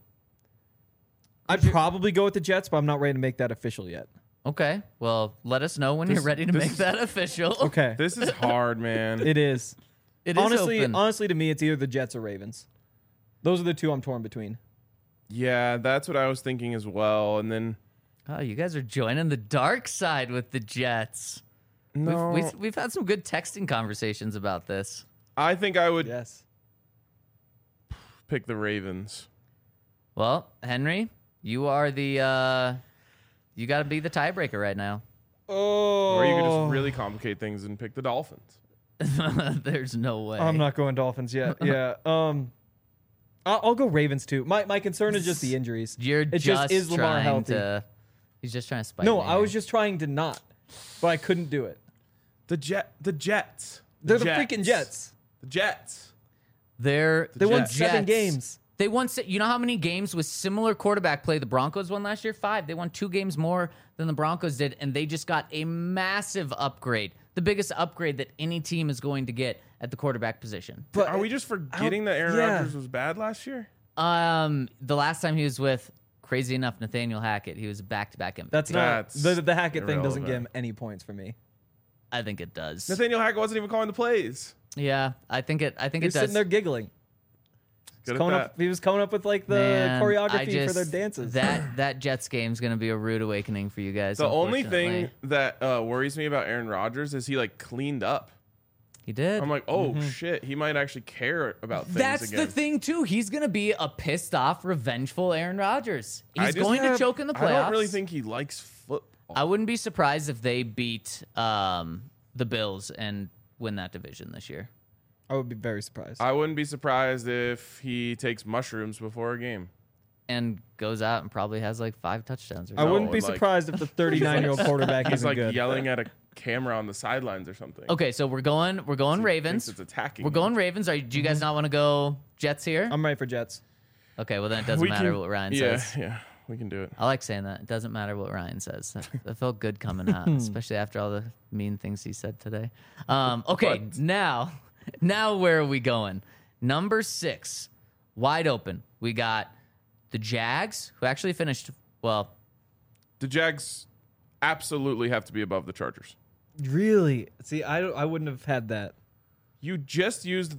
I'd probably go with the Jets, but I'm not ready to make that official yet. Okay. Well, let us know when you're ready to make that official. Okay. This is hard, man. It is. It is open. Honestly, to me, it's either the Jets or Ravens. Those are the two I'm torn between. Yeah, that's what I was thinking as well. And then Oh, you guys are joining the dark side with the Jets. no, We've had some good texting conversations about this. I think I would Yes. pick the Ravens. Well, Henry, you are the you got to be the tiebreaker right now. Oh. Or you could just really complicate things and pick the Dolphins. There's no way. I'm not going Dolphins yet. Yeah. I'll go Ravens too. My concern is just the injuries. You're It just is Lamar trying healthy? to. He's just trying to spite. No, me I was here. just trying to not, but I couldn't do it. The Jets. They're the freaking Jets. The Jets. They won Jets. 7 games. They won. You know how many games with similar quarterback play the Broncos won last year? 5. They won 2 games more than the Broncos did, and they just got a massive upgrade. The biggest upgrade that any team is going to get at the quarterback position. But Are we just forgetting that Aaron Rodgers was bad last year? The last time he was with, crazy enough, Nathaniel Hackett, he was a back-to-back MVP. That's not That's the Hackett thing doesn't irrelevant. give him any points for me. I think it does. Nathaniel Hackett wasn't even calling the plays. Yeah, I think it He was does. sitting there giggling. Good at Coming that. up, he was coming up with like the Man, choreography for their dances. That Jets game's gonna be a rude awakening for you guys. The only unfortunately. thing that worries me about Aaron Rodgers is he like cleaned up. he did. I'm like, oh shit, he might actually care about things That's again. the thing too. He's gonna be a pissed off, revengeful Aaron Rodgers. I He's just going to have- choke in the playoffs. I don't really think he likes football. I wouldn't be surprised if they beat the Bills and win that division this year. I would be very surprised. I wouldn't be surprised if he takes mushrooms before a game. And goes out and probably has like 5 touchdowns. Or I something. wouldn't be like- surprised if the 39-year-old quarterback He's isn't like good. yelling at a camera on the sidelines or something. Okay, so we're going He thinks Ravens. it's attacking. We're going Ravens. Do you guys not want to go Jets here? I'm ready for Jets. Okay, well then it doesn't We matter can- what Ryan yeah, says. Yeah, we can do it. I like saying that. It doesn't matter what Ryan says. That felt good coming out, especially after all the mean things he said today. Okay, What? now where are we going? Number 6, wide open. We got the Jags, who actually finished well. The Jags absolutely have to be above the Chargers. Really? See, I wouldn't have had that. You just used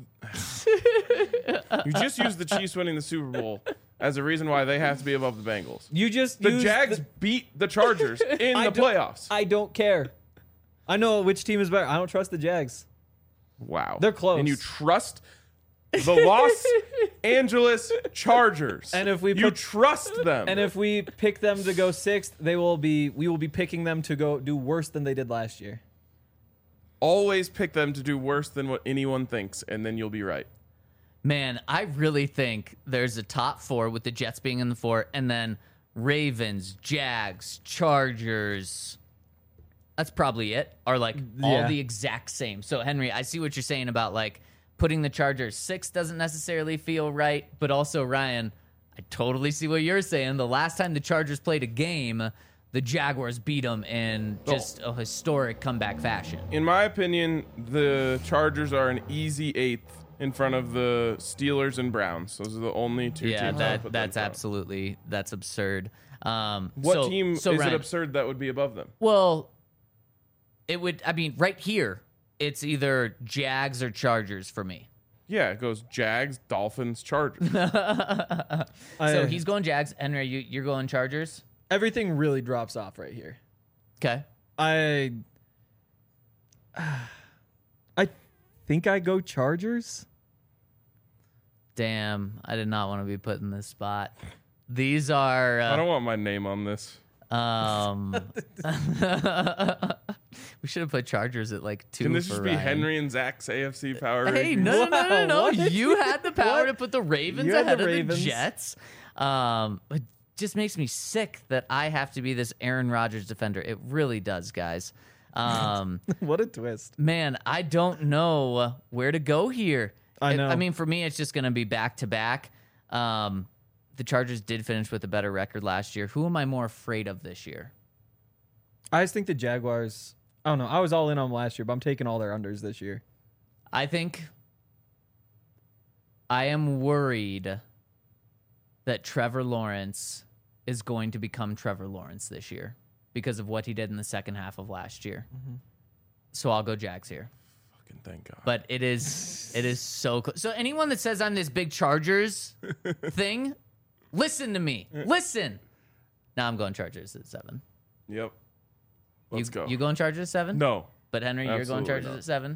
the Chiefs winning the Super Bowl as a reason why they have to be above the Bengals. You just The used Jags beat the Chargers in I the don't- playoffs. I don't care. I know which team is better. I don't trust the Jags. Wow. They're close. And you trust the Los Angeles Chargers. And if we you put- trust them. And if we pick them to go 6th, we will be picking them to go do worse than they did last year. always pick them to do worse than what anyone thinks, and then you'll be right. Man, I really think there's a top 4 with the Jets being in the 4, and then Ravens, Jags, Chargers. That's probably it. Are like all Yeah. the exact same. So Henry, I see what you're saying about like Putting the Chargers 6 doesn't necessarily feel right, but also, Ryan, I totally see what you're saying. The last time the Chargers played a game, the Jaguars beat them in just a historic comeback fashion. In my opinion, the Chargers are an easy 8th in front of the Steelers and Browns. Those are the only two teams. That's absolutely that's absurd. What team is Ryan, it absurd that would be above them? Well, it would. I mean, right here, it's either Jags or Chargers for me. Yeah, it goes Jags, Dolphins, Chargers. So he's going Jags. Henry, you're going Chargers. Everything really drops off right here. Okay. I think I go Chargers. Damn, I did not want to be put in this spot. These are. I don't want my name on this. We should have put Chargers at like 2. Can this for just be Ryan. Henry and Zach's AFC power Hey, rankings? no. What? You had the power What? to put the Ravens You had ahead the of the Ravens. Jets. It just makes me sick that I have to be this Aaron Rodgers defender. It really does, guys. What a twist. Man, I don't know where to go here. I know. I mean, for me, it's just going to be back to back. The Chargers did finish with a better record last year. Who am I more afraid of this year? I just think the Jaguars. I don't know. I was all in on them last year, but I'm taking all their unders this year. I think I am worried that Trevor Lawrence is going to become Trevor Lawrence this year because of what he did in the second half of last year. So I'll go Jags here. Fucking thank God. But it is so close. So anyone that says I'm this big Chargers thing, listen to me. Listen. Now I'm going Chargers at 7. Yep. Let's go. You going Chargers at 7? No. But Henry, you're going Absolutely Chargers not. at 7?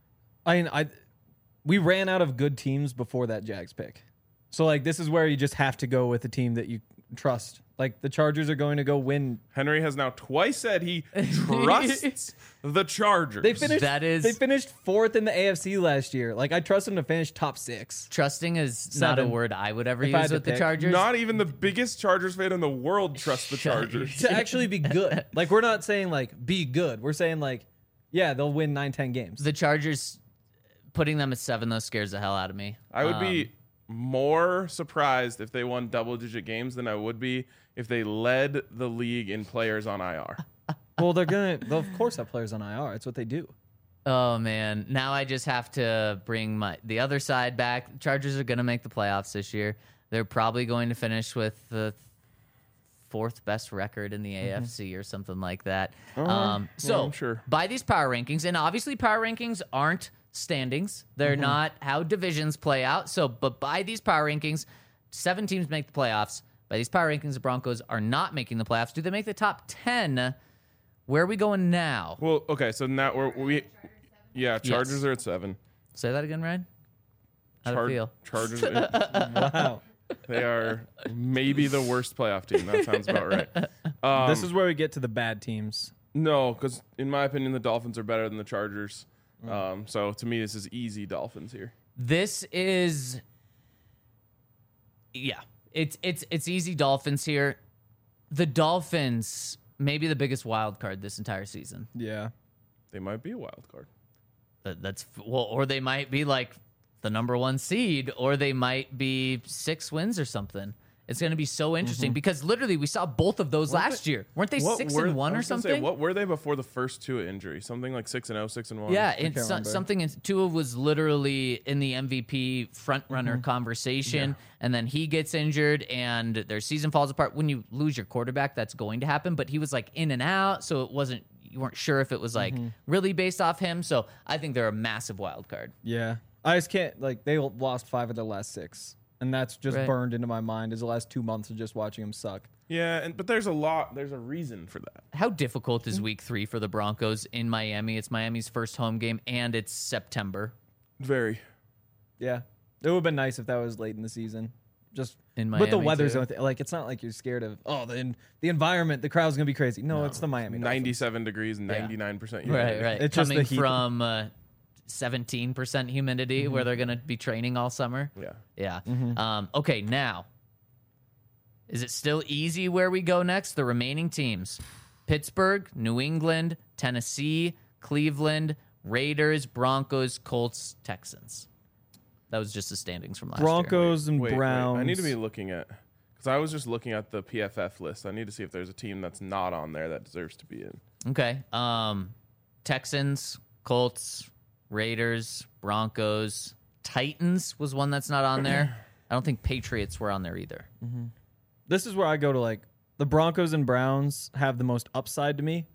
I mean, we ran out of good teams before that Jags pick. So, like, this is where you just have to go with a team that you trust. Like, the Chargers are going to go win. Henry has now twice said he trusts the Chargers. They finished. That is- They finished 4th in the AFC last year. Like, I trust them to finish top 6. Trusting is not a 7. word I would ever If I use had to with the pick. Chargers. Not even the biggest Chargers fan in the world trusts the Shut- Chargers. To actually be good. Like, we're not saying, like, be good. We're saying, like, yeah, they'll win 9-10 games. The Chargers, putting them at 7, though, scares the hell out of me. I would be more surprised if they won double-digit games than I would be if they led the league in players on IR. Well, they'll of course have players on IR. It's what they do. Oh man, now I just have to bring the other side back. The Chargers are going to make the playoffs this year. They're probably going to finish with the 4th best record in the AFC or something like that. So I'm sure. by these power rankings, and obviously power rankings aren't standings. They're not how divisions play out. So, but by these power rankings, 7 teams make the playoffs. By these power rankings, the Broncos are not making the playoffs. Do they make the top 10? Where are we going now? Well, okay, so now Chargers are at 7. Say that again, Ryan. How do you feel? Chargers, Wow. they are maybe the worst playoff team. That sounds about right. This is where we get to the bad teams. No, because in my opinion, the Dolphins are better than the Chargers. So to me, this is easy Dolphins here. This is, yeah, it's easy Dolphins here. The Dolphins may be the biggest wild card this entire season. Yeah. They might be a wild card. Or they might be like the number 1 seed, or they might be 6 wins or something. It's going to be so interesting because literally we saw both of those last year. Weren't they 6-1 or something? What were they before the first Tua injury? Something like 6-0, 6-1. Yeah, can't remember. something. Tua was literally in the MVP frontrunner conversation, and then he gets injured, and their season falls apart. When you lose your quarterback, that's going to happen. But he was like in and out, so it wasn't. You weren't sure if it was like really based off him. So I think they're a massive wild card. Yeah. I just can't, like, they lost 5 of their last 6. And that's just Right. burned into my mind as the last 2 months of just watching them suck. Yeah, but there's a reason for that. How difficult is Week 3 for the Broncos in Miami? It's Miami's first home game, and it's September. Very. Yeah. It would have been nice if that was late in the season. Just In But the Miami, weather's too. like, it's not like you're scared of, the environment, the crowd's going to be crazy. No, it's the Miami Dolphins. 97 degrees and 99% humidity. Right. It's just Coming the heat. from 17% humidity, where they're going to be training all summer. Yeah. Yeah. Okay, now, is it still easy where we go next? The remaining teams: Pittsburgh, New England, Tennessee, Cleveland, Raiders, Broncos, Colts, Texans. That was just the standings from last year. Broncos and Wait, Browns. I need to be looking at because I was just looking at the PFF list. I need to see if there's a team that's not on there that deserves to be in. Okay. Texans, Colts, Raiders, Broncos, Titans was one that's not on there. I don't think Patriots were on there either. This is where I go to like the Broncos and Browns have the most upside to me.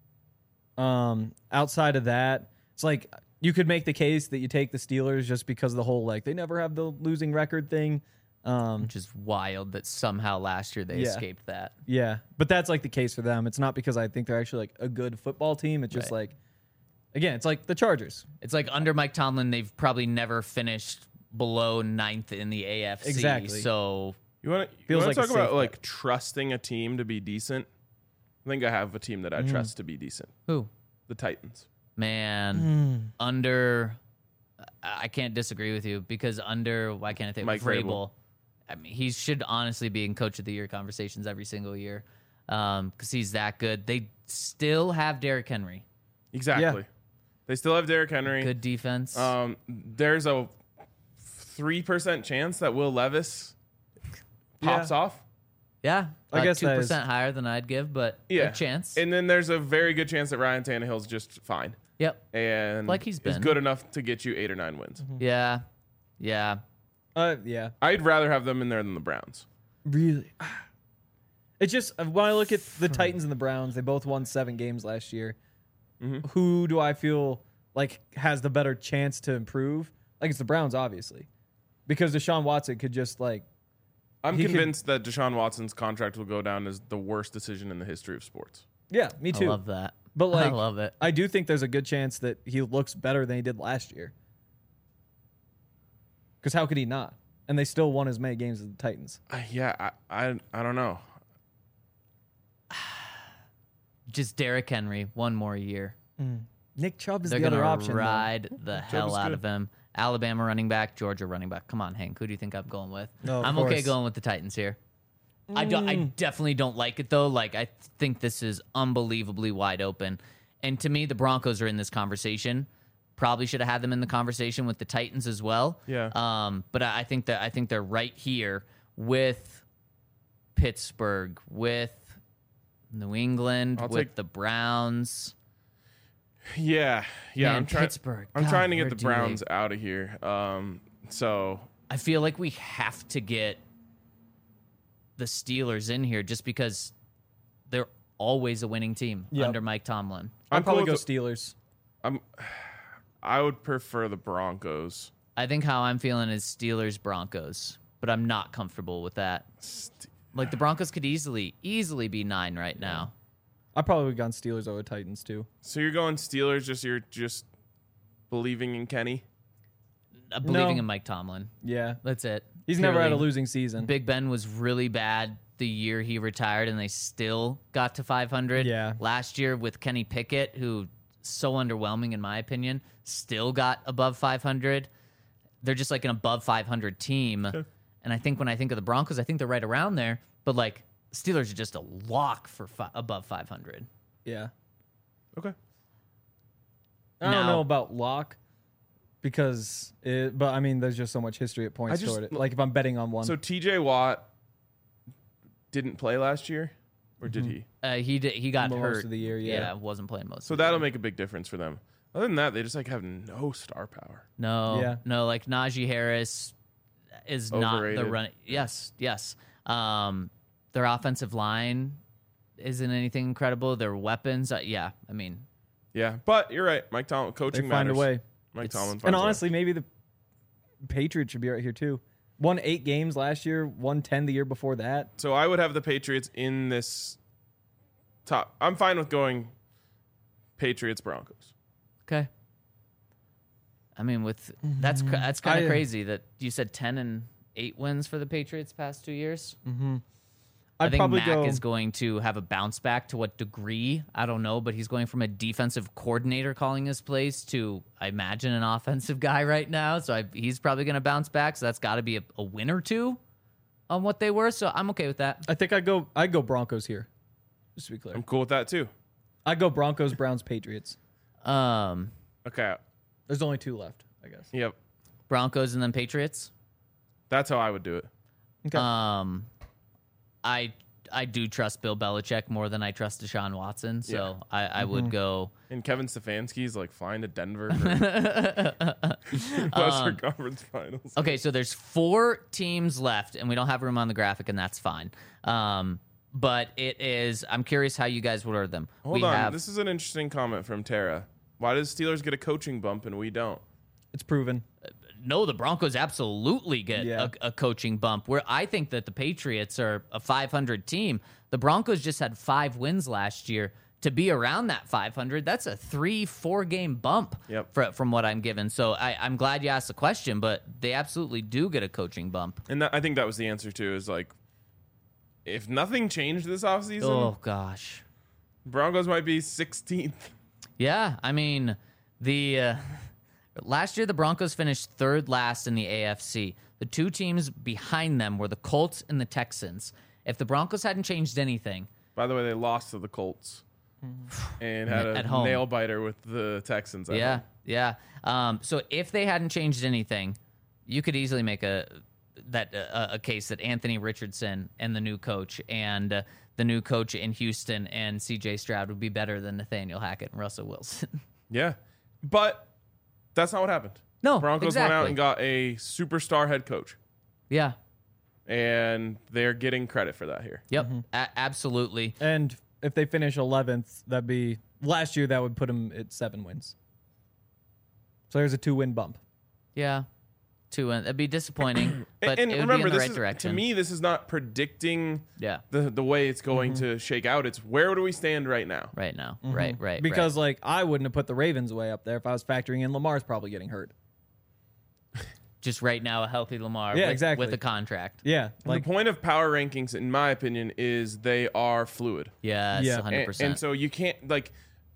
Outside of that, it's like you could make the case that you take the Steelers just because of the whole like they never have the losing record thing. Which is wild that somehow last year they Yeah. escaped that. Yeah, but that's like the case for them. It's not because I think they're actually like a good football team. It's just Right. like, again, it's like the Chargers. It's like under Mike Tomlin, they've probably never finished below 9th in the AFC. Exactly. So You want to Feels like a talk about safe like bet. trusting a team to be decent? I think I have a team that I trust to be decent. who? The Titans. Man, under I can't disagree with you because under why can't I think Mike Vrabel? Vrabel. I mean, he should honestly be in Coach of the Year conversations every single year because he's that good. They still have Derrick Henry, Exactly. They still have Derrick Henry. good defense. There's a 3% chance that Will Levis pops off. yeah, I guess that 2% is- higher than I'd give, but Yeah. a chance. And then there's a very good chance that Ryan Tannehill's just fine. Yep. And Like he's is been. good enough to get you 8 or 9 wins. Yeah. Yeah. Yeah, I'd rather have them in there than the Browns. really. It's just when I look at the Titans and the Browns, they both won 7 games last year. Who do I feel like has the better chance to improve? Like it's the Browns, obviously, because Deshaun Watson could just like I'm He could- convinced that Deshaun Watson's contract will go down as the worst decision in the history of sports. yeah, me too. I love that. But like, I love it. I do think there's a good chance that he looks better than he did last year. Because how could he not? And they still won as many games as the Titans. I don't know. Just Derrick Henry, one more year. Nick Chubb is They're the other gonna option. though. ride the hell is out good. of him. Alabama running back, Georgia running back. Come on, Hank. Who do you think I'm going with? No, of I'm okay course. going with the Titans here. I definitely don't like it though. Like I think this is unbelievably wide open. And to me, the Broncos are in this conversation. Probably should have had them in the conversation with the Titans as well. Yeah. But I think they're right here with Pittsburgh, with New England, I'll with take- the Browns. Yeah. Man, I'm trying. Pittsburgh. I'm God, trying to where get the do they- Browns out of here. So I feel like we have to get the Steelers in here just because they're always a winning team Yep. under Mike Tomlin. I'd probably cool go with Steelers. I would prefer the Broncos. I think how I'm feeling is Steelers Broncos, but I'm not comfortable with that. Like the Broncos could easily be 9 right now. I probably would have gone Steelers over Titans too. So you're going Steelers? You're just believing in Kenny? Believing No. in Mike Tomlin. Yeah, That's it. he's never had a Purely. losing season. Big Ben was really bad the year he retired, and they still got to 500. Yeah. Last year with Kenny Pickett, who so underwhelming in my opinion, still got above 500. They're just like an above 500 team. And I think when I think of the Broncos, I think they're right around there. But like Steelers are just a lock for above 500. Yeah, Okay. I don't Now- know about lock because, but I mean, there's just so much history at points I just- toward it. Like if I'm betting on one, So TJ Watt didn't play last year, or did he? He got Most hurt of the year, yeah. wasn't playing most. So of the that'll year. make a big difference for them. Other than that, they just like have no star power. Yeah. No, like Najee Harris is not the Overrated. run. Yes. Their offensive line isn't anything incredible. Their weapons, yeah. I mean, Yeah, but you're right. Mike Tomlin they coaching find matters. a way. Mike Tomlin finds And a way. honestly, maybe the Patriots should be right here too. Won 8 games last year, won 10 the year before that. So I would have the Patriots in this top. I'm fine with going Patriots Broncos. okay. I mean, with that's kind of I- crazy that you said 10 and 8 wins for the Patriots past 2 years. I I'd think probably Mac go. is going to have a bounce back. To what degree? I don't know, but he's going from a defensive coordinator calling his plays to, I imagine, an offensive guy right now. So he's probably going to bounce back. So that's got to be a win or two on what they were. So I'm okay with that. I think I'd go Broncos here. Just to be clear, I'm cool with that too. I'd go Broncos, Browns, Patriots. Okay. There's only 2 left, I guess. Yep. Broncos and then Patriots. That's how I would do it. Okay. I do trust Bill Belichick more than I trust Deshaun Watson, so I would go. And Kevin Stefanski's like flying to Denver for Western Conference Finals. Okay, so there's 4 teams left, and we don't have room on the graphic, and that's fine. But it is. I'm curious how you guys would order them. Hold on. This is an interesting comment from Tara. Why does Steelers get a coaching bump and we don't? It's proven. No, the Broncos absolutely get a coaching bump. Where I think that the Patriots are a 500 team. The Broncos just had 5 wins last year. To be around that 500, that's a 3-4 game bump from what I'm given. So I'm glad you asked the question, but they absolutely do get a coaching bump. And I think that was the answer too. Is like, if nothing changed this offseason, Oh gosh, Broncos might be 16th. yeah. I mean, the last year the Broncos finished 3rd last in the AFC. The 2 teams behind them were the Colts and the Texans. If the Broncos hadn't changed anything, By the way, they lost to the Colts and had At a home. nail biter with the Texans. yeah. So if they hadn't changed anything, you could easily make a case that Anthony Richardson and the new coach and the new coach in Houston and C.J. Stroud would be better than Nathaniel Hackett and Russell Wilson. Yeah. But that's not what happened. No, Broncos went out exactly. and got a superstar head coach. Yeah. And they're getting credit for that here. Yep. Absolutely. And if they finish 11th, that'd be last year. That would put them at 7 wins. So there's a 2-win bump. Yeah. 2 wins. That'd be disappointing, but and it would remember, be in the this right is, direction. to me, this is not predicting Yeah. the way it's going to shake out. It's where do we stand right now? Right now. Right. Because like I wouldn't have put the Ravens way up there if I was factoring in Lamar's probably getting hurt. Just right now, a healthy Lamar Yeah, with, exactly. with a contract. Yeah, like The point of power rankings, in my opinion, is they are fluid. Yes, Yeah. 100%. And so you can't, like,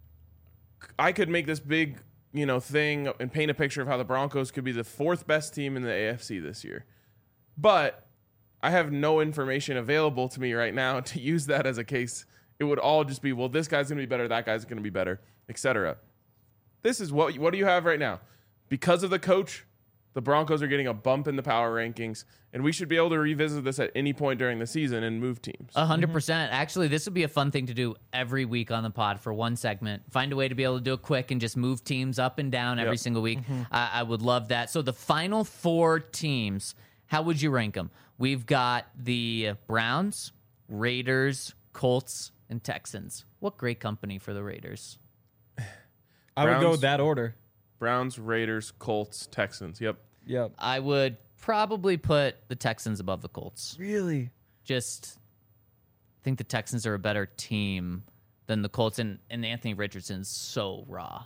I could make this big, thing and paint a picture of how the Broncos could be the 4th best team in the AFC this year. But I have no information available to me right now to use that as a case. It would all just be, well, this guy's going to be better, that guy's going to be better, etc. This is what do you have right now? Because of the coach, the Broncos are getting a bump in the power rankings, and we should be able to revisit this at any point during the season and move teams. 100%. Actually, this would be a fun thing to do every week on the pod for one segment. Find a way to be able to do it quick and just move teams up and down every single week. I would love that. So the final 4 teams, how would you rank them? We've got the Browns, Raiders, Colts, and Texans. What great company for the Raiders. I would go Browns- with that order. Browns, Raiders, Colts, Texans. Yep. Yep. I would probably put the Texans above the Colts. Really? Just think the Texans are a better team than the Colts, and Anthony Richardson's so raw.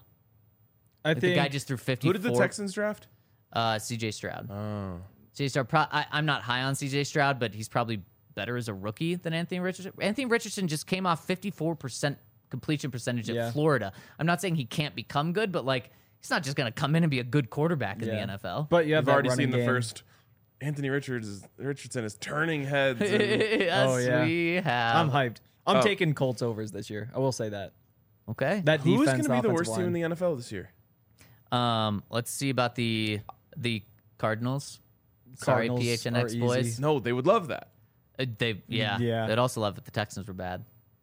I Like, think the guy just threw 54. Who did the Texans draft? C.J. Stroud. Oh. C.J. Stroud. I'm not high on C.J. Stroud, but he's probably better as a rookie than Anthony Richardson. Anthony Richardson just came off 54% completion percentage at Florida. I'm not saying he can't become good, but like he's not just going to come in and be a good quarterback in the NFL. But you have I've that already running seen the game. first. Anthony Richardson is turning heads. and- Yes, Oh, yeah. we have. I'm hyped. I'm taking Colts overs this year. I will say that. Okay. That Who's defense, going to be the worst offensive team in line. the NFL this year? Let's see about the Cardinals. Sorry, Cardinals PHNX are boys. easy. No, they would love that. Yeah. They'd also love it. The Texans were bad.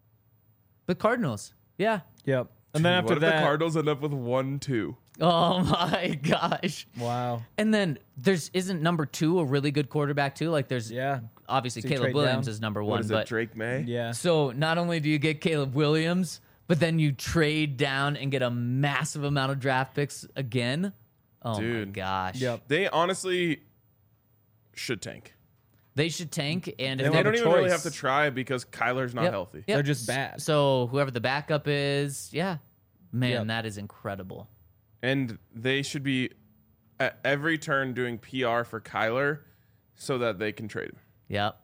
But Cardinals, yeah. Yep. And then What after if that, the Cardinals end up with 1-2? Oh my gosh. wow. And then isn't number 2 a really good quarterback too? Like there's Yeah. obviously So you Caleb trade Williams down? is number 1, What is but it, Drake May? Yeah. so not only do you get Caleb Williams, but then you trade down and get a massive amount of draft picks again. Oh my Dude. gosh. Yep. They honestly should tank. They should tank, and They if They have don't a even really choice. have to try because Kyler's not Yep. healthy. Yep. They're just bad. So whoever the backup is, yeah, man, Yep. that is incredible. And they should be at every turn doing PR for Kyler so that they can trade him. Yep,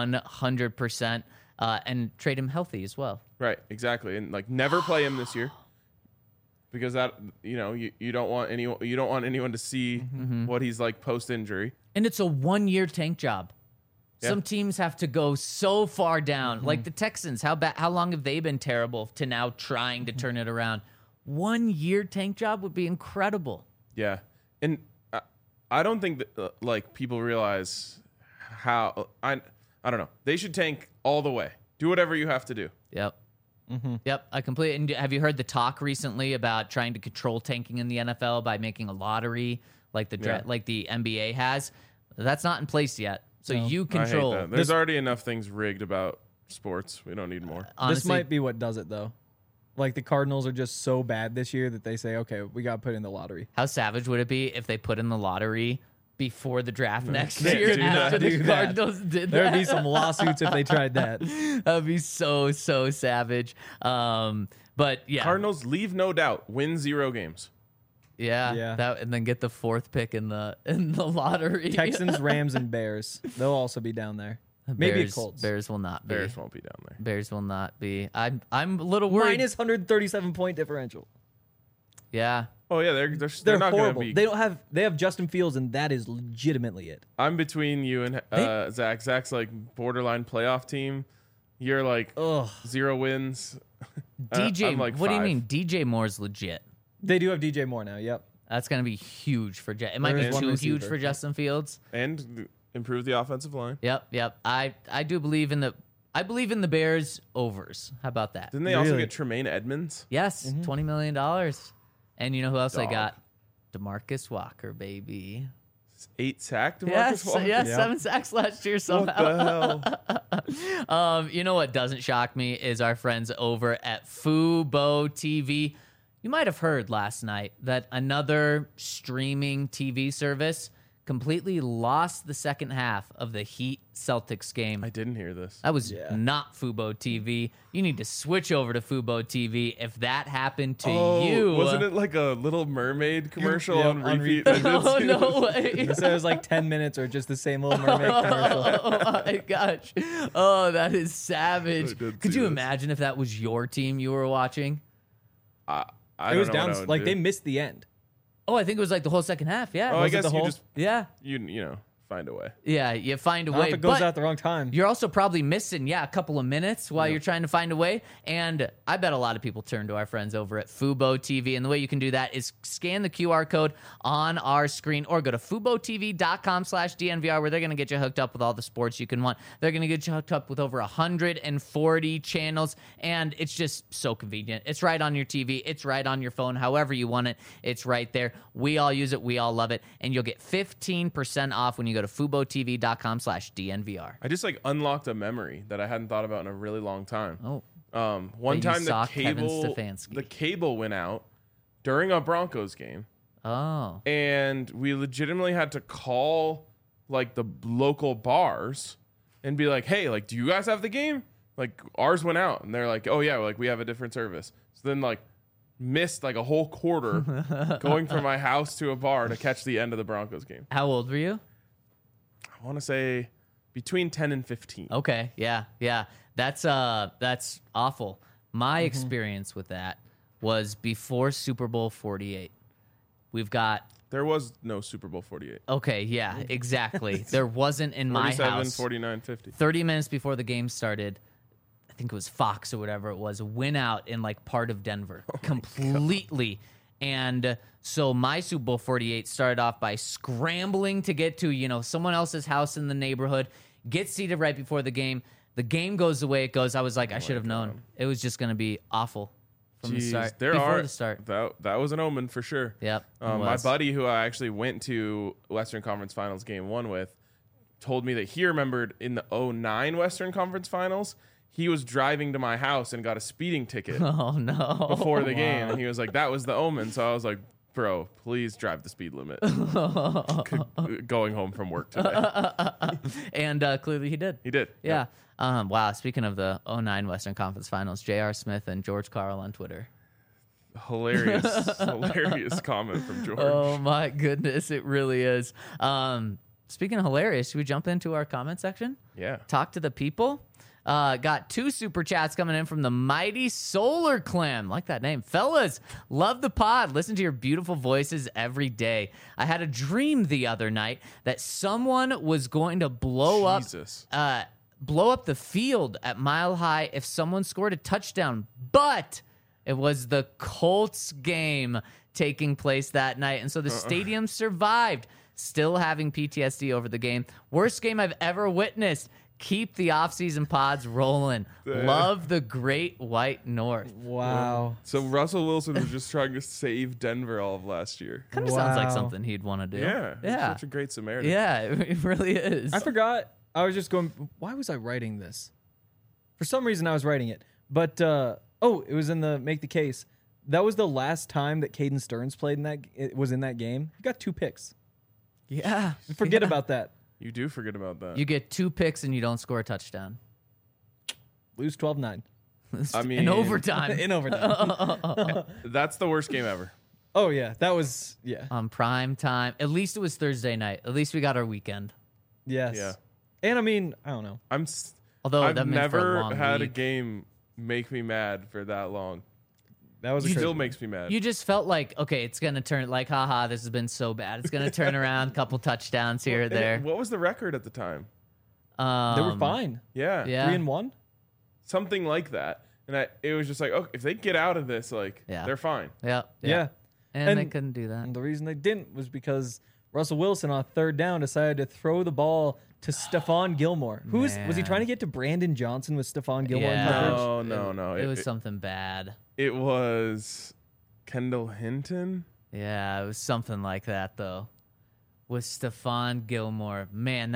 100%, and trade him healthy as well. Right, exactly. And like never play him this year. Because that you don't want anyone to see what he's like post injury. And it's a 1-year tank job. Yeah. Some teams have to go so far down, like the Texans. How long have they been terrible to now trying to turn it around? 1-year tank job would be incredible. Yeah. And I don't think that like people realize how I don't know. They should tank all the way. Do whatever you have to do. Yep. Yep, I completely. And have you heard the talk recently about trying to control tanking in the NFL by making a lottery like like the NBA has? That's not in place yet. So you control. I hate that. There's already enough things rigged about sports. We don't need more. Honestly, this might be what does it though. Like the Cardinals are just so bad this year that they say, okay, we got to put in the lottery. How savage would it be if they put in the lottery before the draft next Can't year do after that. the Cardinals did that? There'd be some lawsuits if they tried that. That'd be so savage. But yeah, Cardinals leave no doubt. Win 0 games. yeah. That, and then get the 4th pick in the lottery. Texans, Rams, and Bears. They'll also be down there. Maybe Colts. Bears will not be. Bears won't be down there. Bears will not be. I'm a little worried. Minus 137 point differential. Yeah. Oh yeah, they're They're not going to horrible. be. They have Justin Fields, and that is legitimately it. I'm between you and Zach. Zach's like borderline playoff team. You're like 0 wins. DJ, I'm like what do you 5. mean? DJ Moore's legit. They do have DJ Moore now. Yep. That's going to be huge for It might There be is one too huge receiver. for Justin Fields. And improve the offensive line. Yep. I do believe in the Bears overs. How about that? Didn't they also Really? get Tremaine Edmonds? Yes, $20 million. And you know who else I Dog. got? DeMarcus Walker, baby. 8 sacked. Yes, Walker? yes, Yeah. 7 sacks last year What somehow. the hell? You know what doesn't shock me is our friends over at Fubo TV. You might have heard last night that another streaming TV service completely lost the second half of the Heat Celtics game. I didn't hear this. That was not Fubo TV. You need to switch over to Fubo TV if that happened to you. Wasn't it like a Little Mermaid commercial Yeah, on on repeat? Oh, no way. They said it was like 10 minutes or just the same Little Mermaid commercial. Oh my gosh. Oh, that is savage. I did Could see you this. imagine if that was your team you were watching? I It was don't know down. what I would Like do. they missed the end. Oh, I think it was like the whole second half. Yeah. Oh, I Was it guess the you whole- just Yeah. you know find a way. Yeah. You find a Not way. if it goes but out the wrong time. you're also probably missing, a couple of minutes while you're trying to find a way. And I bet a lot of people turn to our friends over at Fubo TV. And the way you can do that is scan the QR code on our screen or go to FuboTV.com/DNVR where they're going to get you hooked up with all the sports you can want. They're going to get you hooked up with over 140 channels. And it's just so convenient. It's right on your TV. It's right on your phone. However you want it, it's right there. We all use it. We all love it. And you'll get 15% off when you go to FuboTV.com/DNVR. I just like unlocked a memory that I hadn't thought about in a really long time. Oh. One That you time saw the Kevin cable Stefanski. went out during a Broncos game, Oh. and we legitimately had to call like the local bars and be like, "Hey, like, do you guys have the game?" Like ours went out, and they're like, "Oh yeah, like we have a different service." So then like missed like a whole quarter going from my house to a bar to catch the end of the Broncos game. How old were you? I want to say between 10 and 15. Okay. Yeah. That's awful. My experience with that was before Super Bowl 48. We've got There was no Super Bowl 48. okay, yeah, exactly. There wasn't in my 47, house. 49, 50. 30 minutes before the game started, I think it was Fox or whatever it was, went out in like part of Denver completely. And so my Super Bowl 48 started off by scrambling to get to, someone else's house in the neighborhood, get seated right before the game. The game goes the way it goes. I was like, I should have known. It was just going to be awful from the start. Before the start. That was an omen for sure. Yep. it My was. buddy, who I actually went to Western Conference Finals Game 1 with, told me that he remembered in the 2009 Western Conference Finals, he was driving to my house and got a speeding ticket Oh, no. before the game. And he was like, that was the omen. So I was like, bro, please drive the speed limit. Going home from work today. And clearly he did. He did. Yeah. Wow. Speaking of the 2009 Western Conference Finals, J.R. Smith and George Karl on Twitter. Hilarious comment from George. Oh, my goodness. It really is. Speaking of hilarious, should we jump into our comment section? Yeah. Talk to the people. Got 2 super chats coming in from the Mighty Solar Clan. Like that name. Fellas, love the pod. Listen to your beautiful voices every day. I had a dream the other night that someone was going to blow Jesus. up the field at Mile High if someone scored a touchdown. But it was the Colts game. taking place that night. And so the stadium survived, still having PTSD over the game. Worst game I've ever witnessed. Keep the offseason pods rolling. Love the Great White North. Wow. So Russell Wilson was just trying to save Denver all of last year. Kind of sounds like Wow. something he'd want to do. Yeah. He's Yeah. such a great Samaritan. Yeah, it really is. I forgot. I was just going, why was I writing this? For some reason, I was writing it. But, it was in the Make the Case. That was the last time that Caden Stearns played in that, it was in that game. He got 2 picks. Yeah. Forget about that. You do forget about that. You get 2 picks and you don't score a touchdown. Lose 12-9. I mean, in overtime. In overtime. that's the worst game ever. Oh, yeah. That was, yeah. On prime time. At least it was Thursday night. At least we got our weekend. Yes. Yeah. And I mean, I don't know. Although I've that meant for a never long had week. a game make me mad for that long. That was a It crazy still one. makes me mad. You just felt like, okay, it's going to turn, like, haha, this has been so bad. It's going to turn around, couple touchdowns here or And there. what was the record at the time? They were fine. Yeah. Yeah. 3-1. Something like that. And it was just like, oh, if they get out of this, like, Yeah. they're fine. Yeah. Yeah. And they And- couldn't do that. And the reason they didn't was because Russell Wilson on 3rd down decided to throw the ball to Stephon Gilmore. Was he Man. trying to get to Brandon Johnson with Stephon Gilmore in Yeah. coverage? No. It was something bad. It was Kendall Hinton. Yeah, it was something like that, though. With Stephon Gilmore. Man,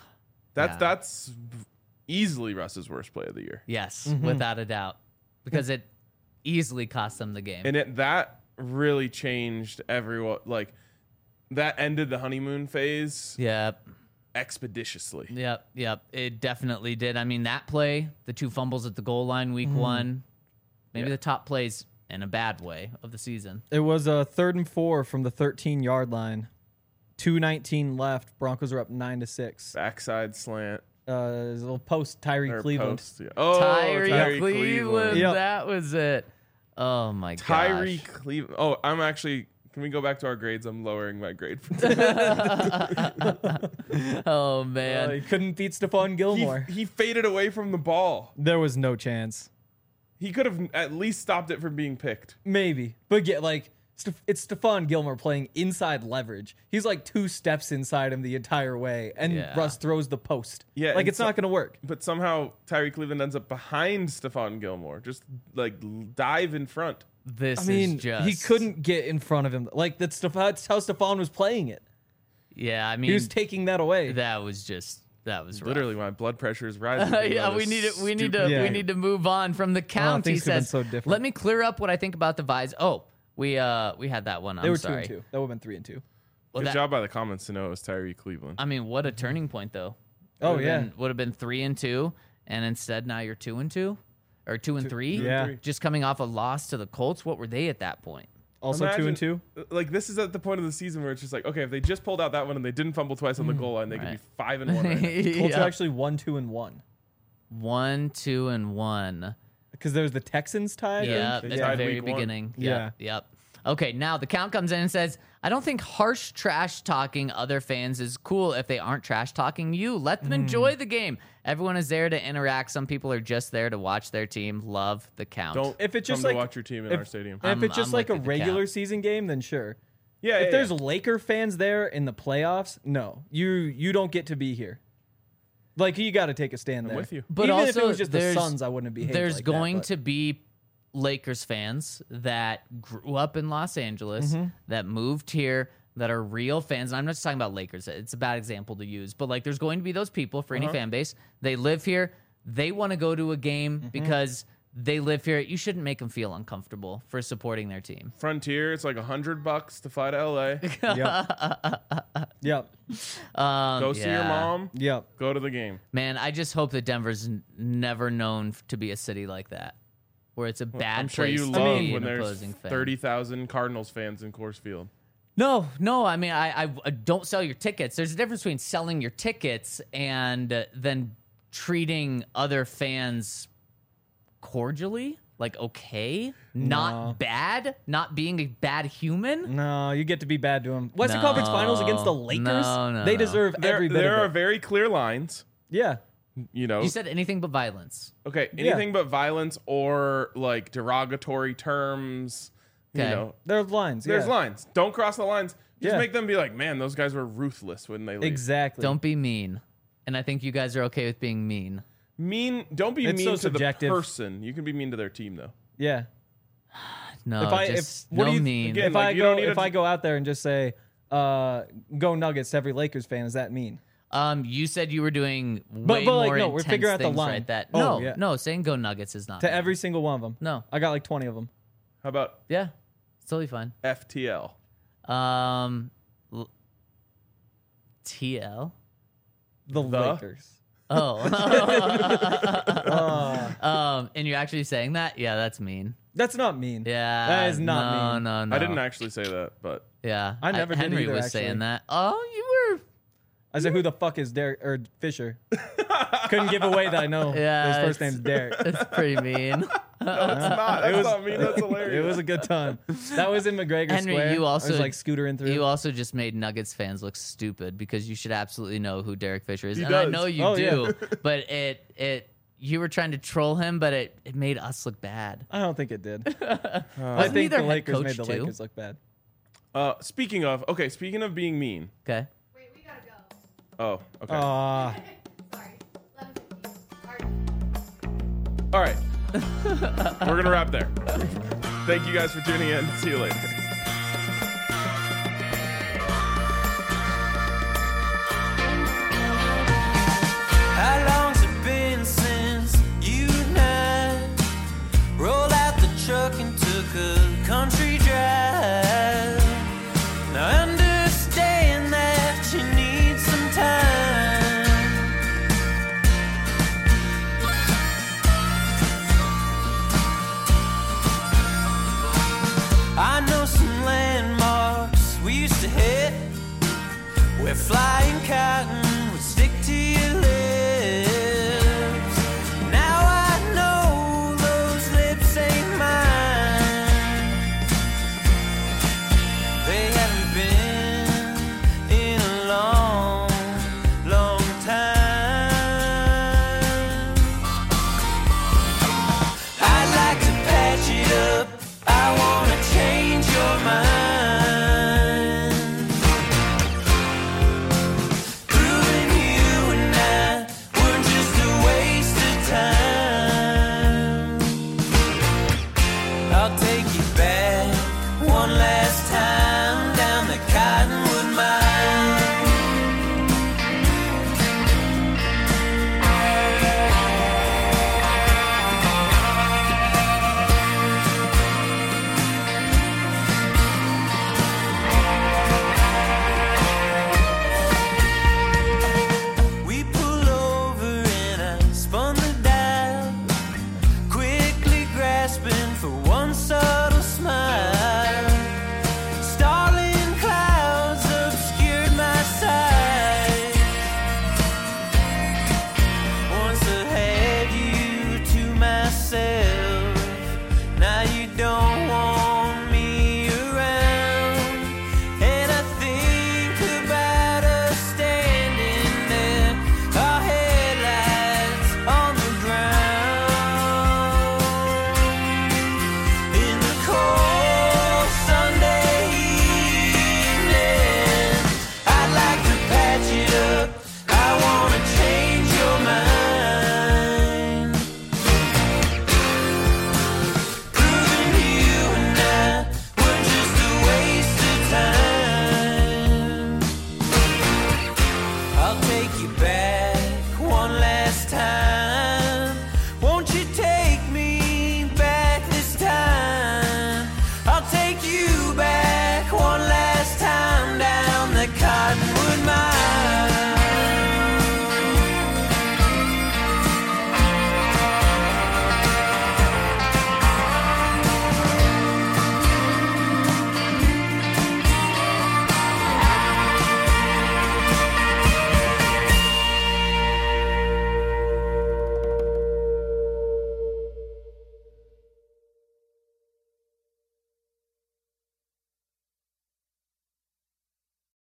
That's easily Russ's worst play of the year. yes, without a doubt. Because it easily cost them the game. And that really changed everyone. Like, that ended the honeymoon phase Yep. expeditiously. Yep. It definitely did. I mean, that play, the 2 fumbles at the goal line week 1, maybe the top plays in a bad way of the season. It was a 3rd and 4 from the 13-yard line. 2:19 left. Broncos are up 9-6. Backside slant. His little post, Tyree Or Cleveland. post, yeah. Oh, Tyree Cleveland. Yep. That was it. Oh, my gosh. Tyree Cleveland. Oh, I'm actually. Can we go back to our grades? I'm lowering my grade. Oh, man. He couldn't beat Stephon Gilmore. He faded away from the ball. There was no chance. He could have at least stopped it from being picked. Maybe. But yeah, like, it's Stephon Gilmore playing inside leverage. He's like 2 steps inside him the entire way, and Yeah. Russ throws the post. Yeah, like and it's not going to work. But somehow Tyree Cleveland ends up behind Stephon Gilmore. Just like dive in front. This I mean, is just. he couldn't get in front of him. Like that's how Stephon was playing it. Yeah, I mean, He was taking that away. that was rough. Literally, my blood pressure is rising. Yeah, we need to move on from the count. He things could've been says, so different. "Let me clear up what I think about the Vise." Oh, we had that one. They I'm were sorry. 2-2. That would have been 3-2. Well, Good that- job by the comments to know it was Tyree Cleveland. I mean, what a turning point, though. Oh, Would've yeah. been- would have been 3-2, and instead now you're 2-2, or 2-3. Yeah. just coming off a loss to the Colts. What were they at that point? Also Imagine- 2-2. Like, this is at the point of the season where it's just like, okay, if they just pulled out that one and they didn't fumble twice on the goal line, they could be 5-1 right now. Colts Yeah. are actually 1-2-1 1, 2, and 1. because there's the Texans tied. Yeah, They at the tied very week one. beginning. Yeah. Yep. Okay, now the count comes in and says, I don't think harsh trash talking other fans is cool if they aren't trash talking you. Let them enjoy the game. Everyone is there to interact. Some people are just there to watch their team. Love the count. Don't If it's just come like to watch your team in our stadium. And if it's just I'm like a with the regular count. season game, then sure. Yeah, If there's Laker fans there in the playoffs, no, you don't get to be here. Like you got to take a stand there. with you. But even also, if it was just the there's- Suns, I wouldn't be. There's like going that, to be Lakers fans that grew up in Los Angeles, that moved here, that are real fans. And I'm not just talking about Lakers. It's a bad example to use, but like there's going to be those people for any fan base. They live here. They want to go to a game because they live here. You shouldn't make them feel uncomfortable for supporting their team. Frontier, it's like $100 to fly to LA. Yep. Go see your yeah. mom. Yep. Go to the game. Man, I just hope that Denver's never known to be a city like that, where it's a bad I'm sure place you to love be when an there's opposing fan. 30,000 Cardinals fans in Coors Field. No. I mean, I don't sell your tickets. There's a difference between selling your tickets and then treating other fans cordially, like okay, not bad, not being a bad human. No, you get to be bad to them. Western No. Conference Finals against the Lakers. No, they no. deserve every bit There of are it. very clear lines. Yeah. You know, You said anything but violence. okay, anything but violence or like derogatory terms, You Okay. know, There's lines. there's yeah. lines. Don't cross the lines. Just Yeah. make them be like, man, those guys were ruthless when they leave. Exactly. Don't be mean. And I think you guys are okay with being mean. Mean. Don't be It's mean so to subjective. the person. You can be mean to their team though. Yeah. No, just what no do you, mean. again, If like, I you go don't need if a- I go out there and just say, "Go Nuggets" to every Lakers fan, is that mean? You said you were doing way but, like, more no, we're intense figuring out the things line. right that. Oh, no, yeah. no, saying go Nuggets is not To mean. every single one of them. No. I got like 20 of them. How about Yeah, it's totally fine. FTL? TL. The The? Lakers. Oh. And you're actually saying that? Yeah, that's mean. That's not mean. Yeah, That is not mean. No. I didn't actually say that, but Yeah, I never did Henry either, was actually. saying that. Oh, you were. I said, who the fuck is Derek or Fisher? Couldn't give away that I know Yeah, his first it's- name's Derek. It's pretty mean. no, it's not. That's not mean. That's hilarious. It was a good time. That was in McGregor Henry, Square. you I also- was like scootering through. You also just made Nuggets fans look stupid because you should absolutely know who Derek Fisher is. He and I does. know you Oh, do, yeah. but you were trying to troll him, but it made us look bad. I don't think it did. I Wasn't he think their the head Lakers coach made the too? Lakers look bad. Speaking of being mean. Okay. Wait, we gotta go. Oh, okay. Sorry. 11:15. All right. We're going to wrap there. Thank you guys for tuning in. See you later. How long's it been since you and I rolled out the truck and took a country drive? Now I understand that you need some time. I know some landmarks we used to hit where flying cotton would stick to your lips. Now I know those lips ain't mine. They haven't been in a long, long time. I'd like to patch it up. I wanna change your mind. Proving you and I weren't just a waste of time. I'll take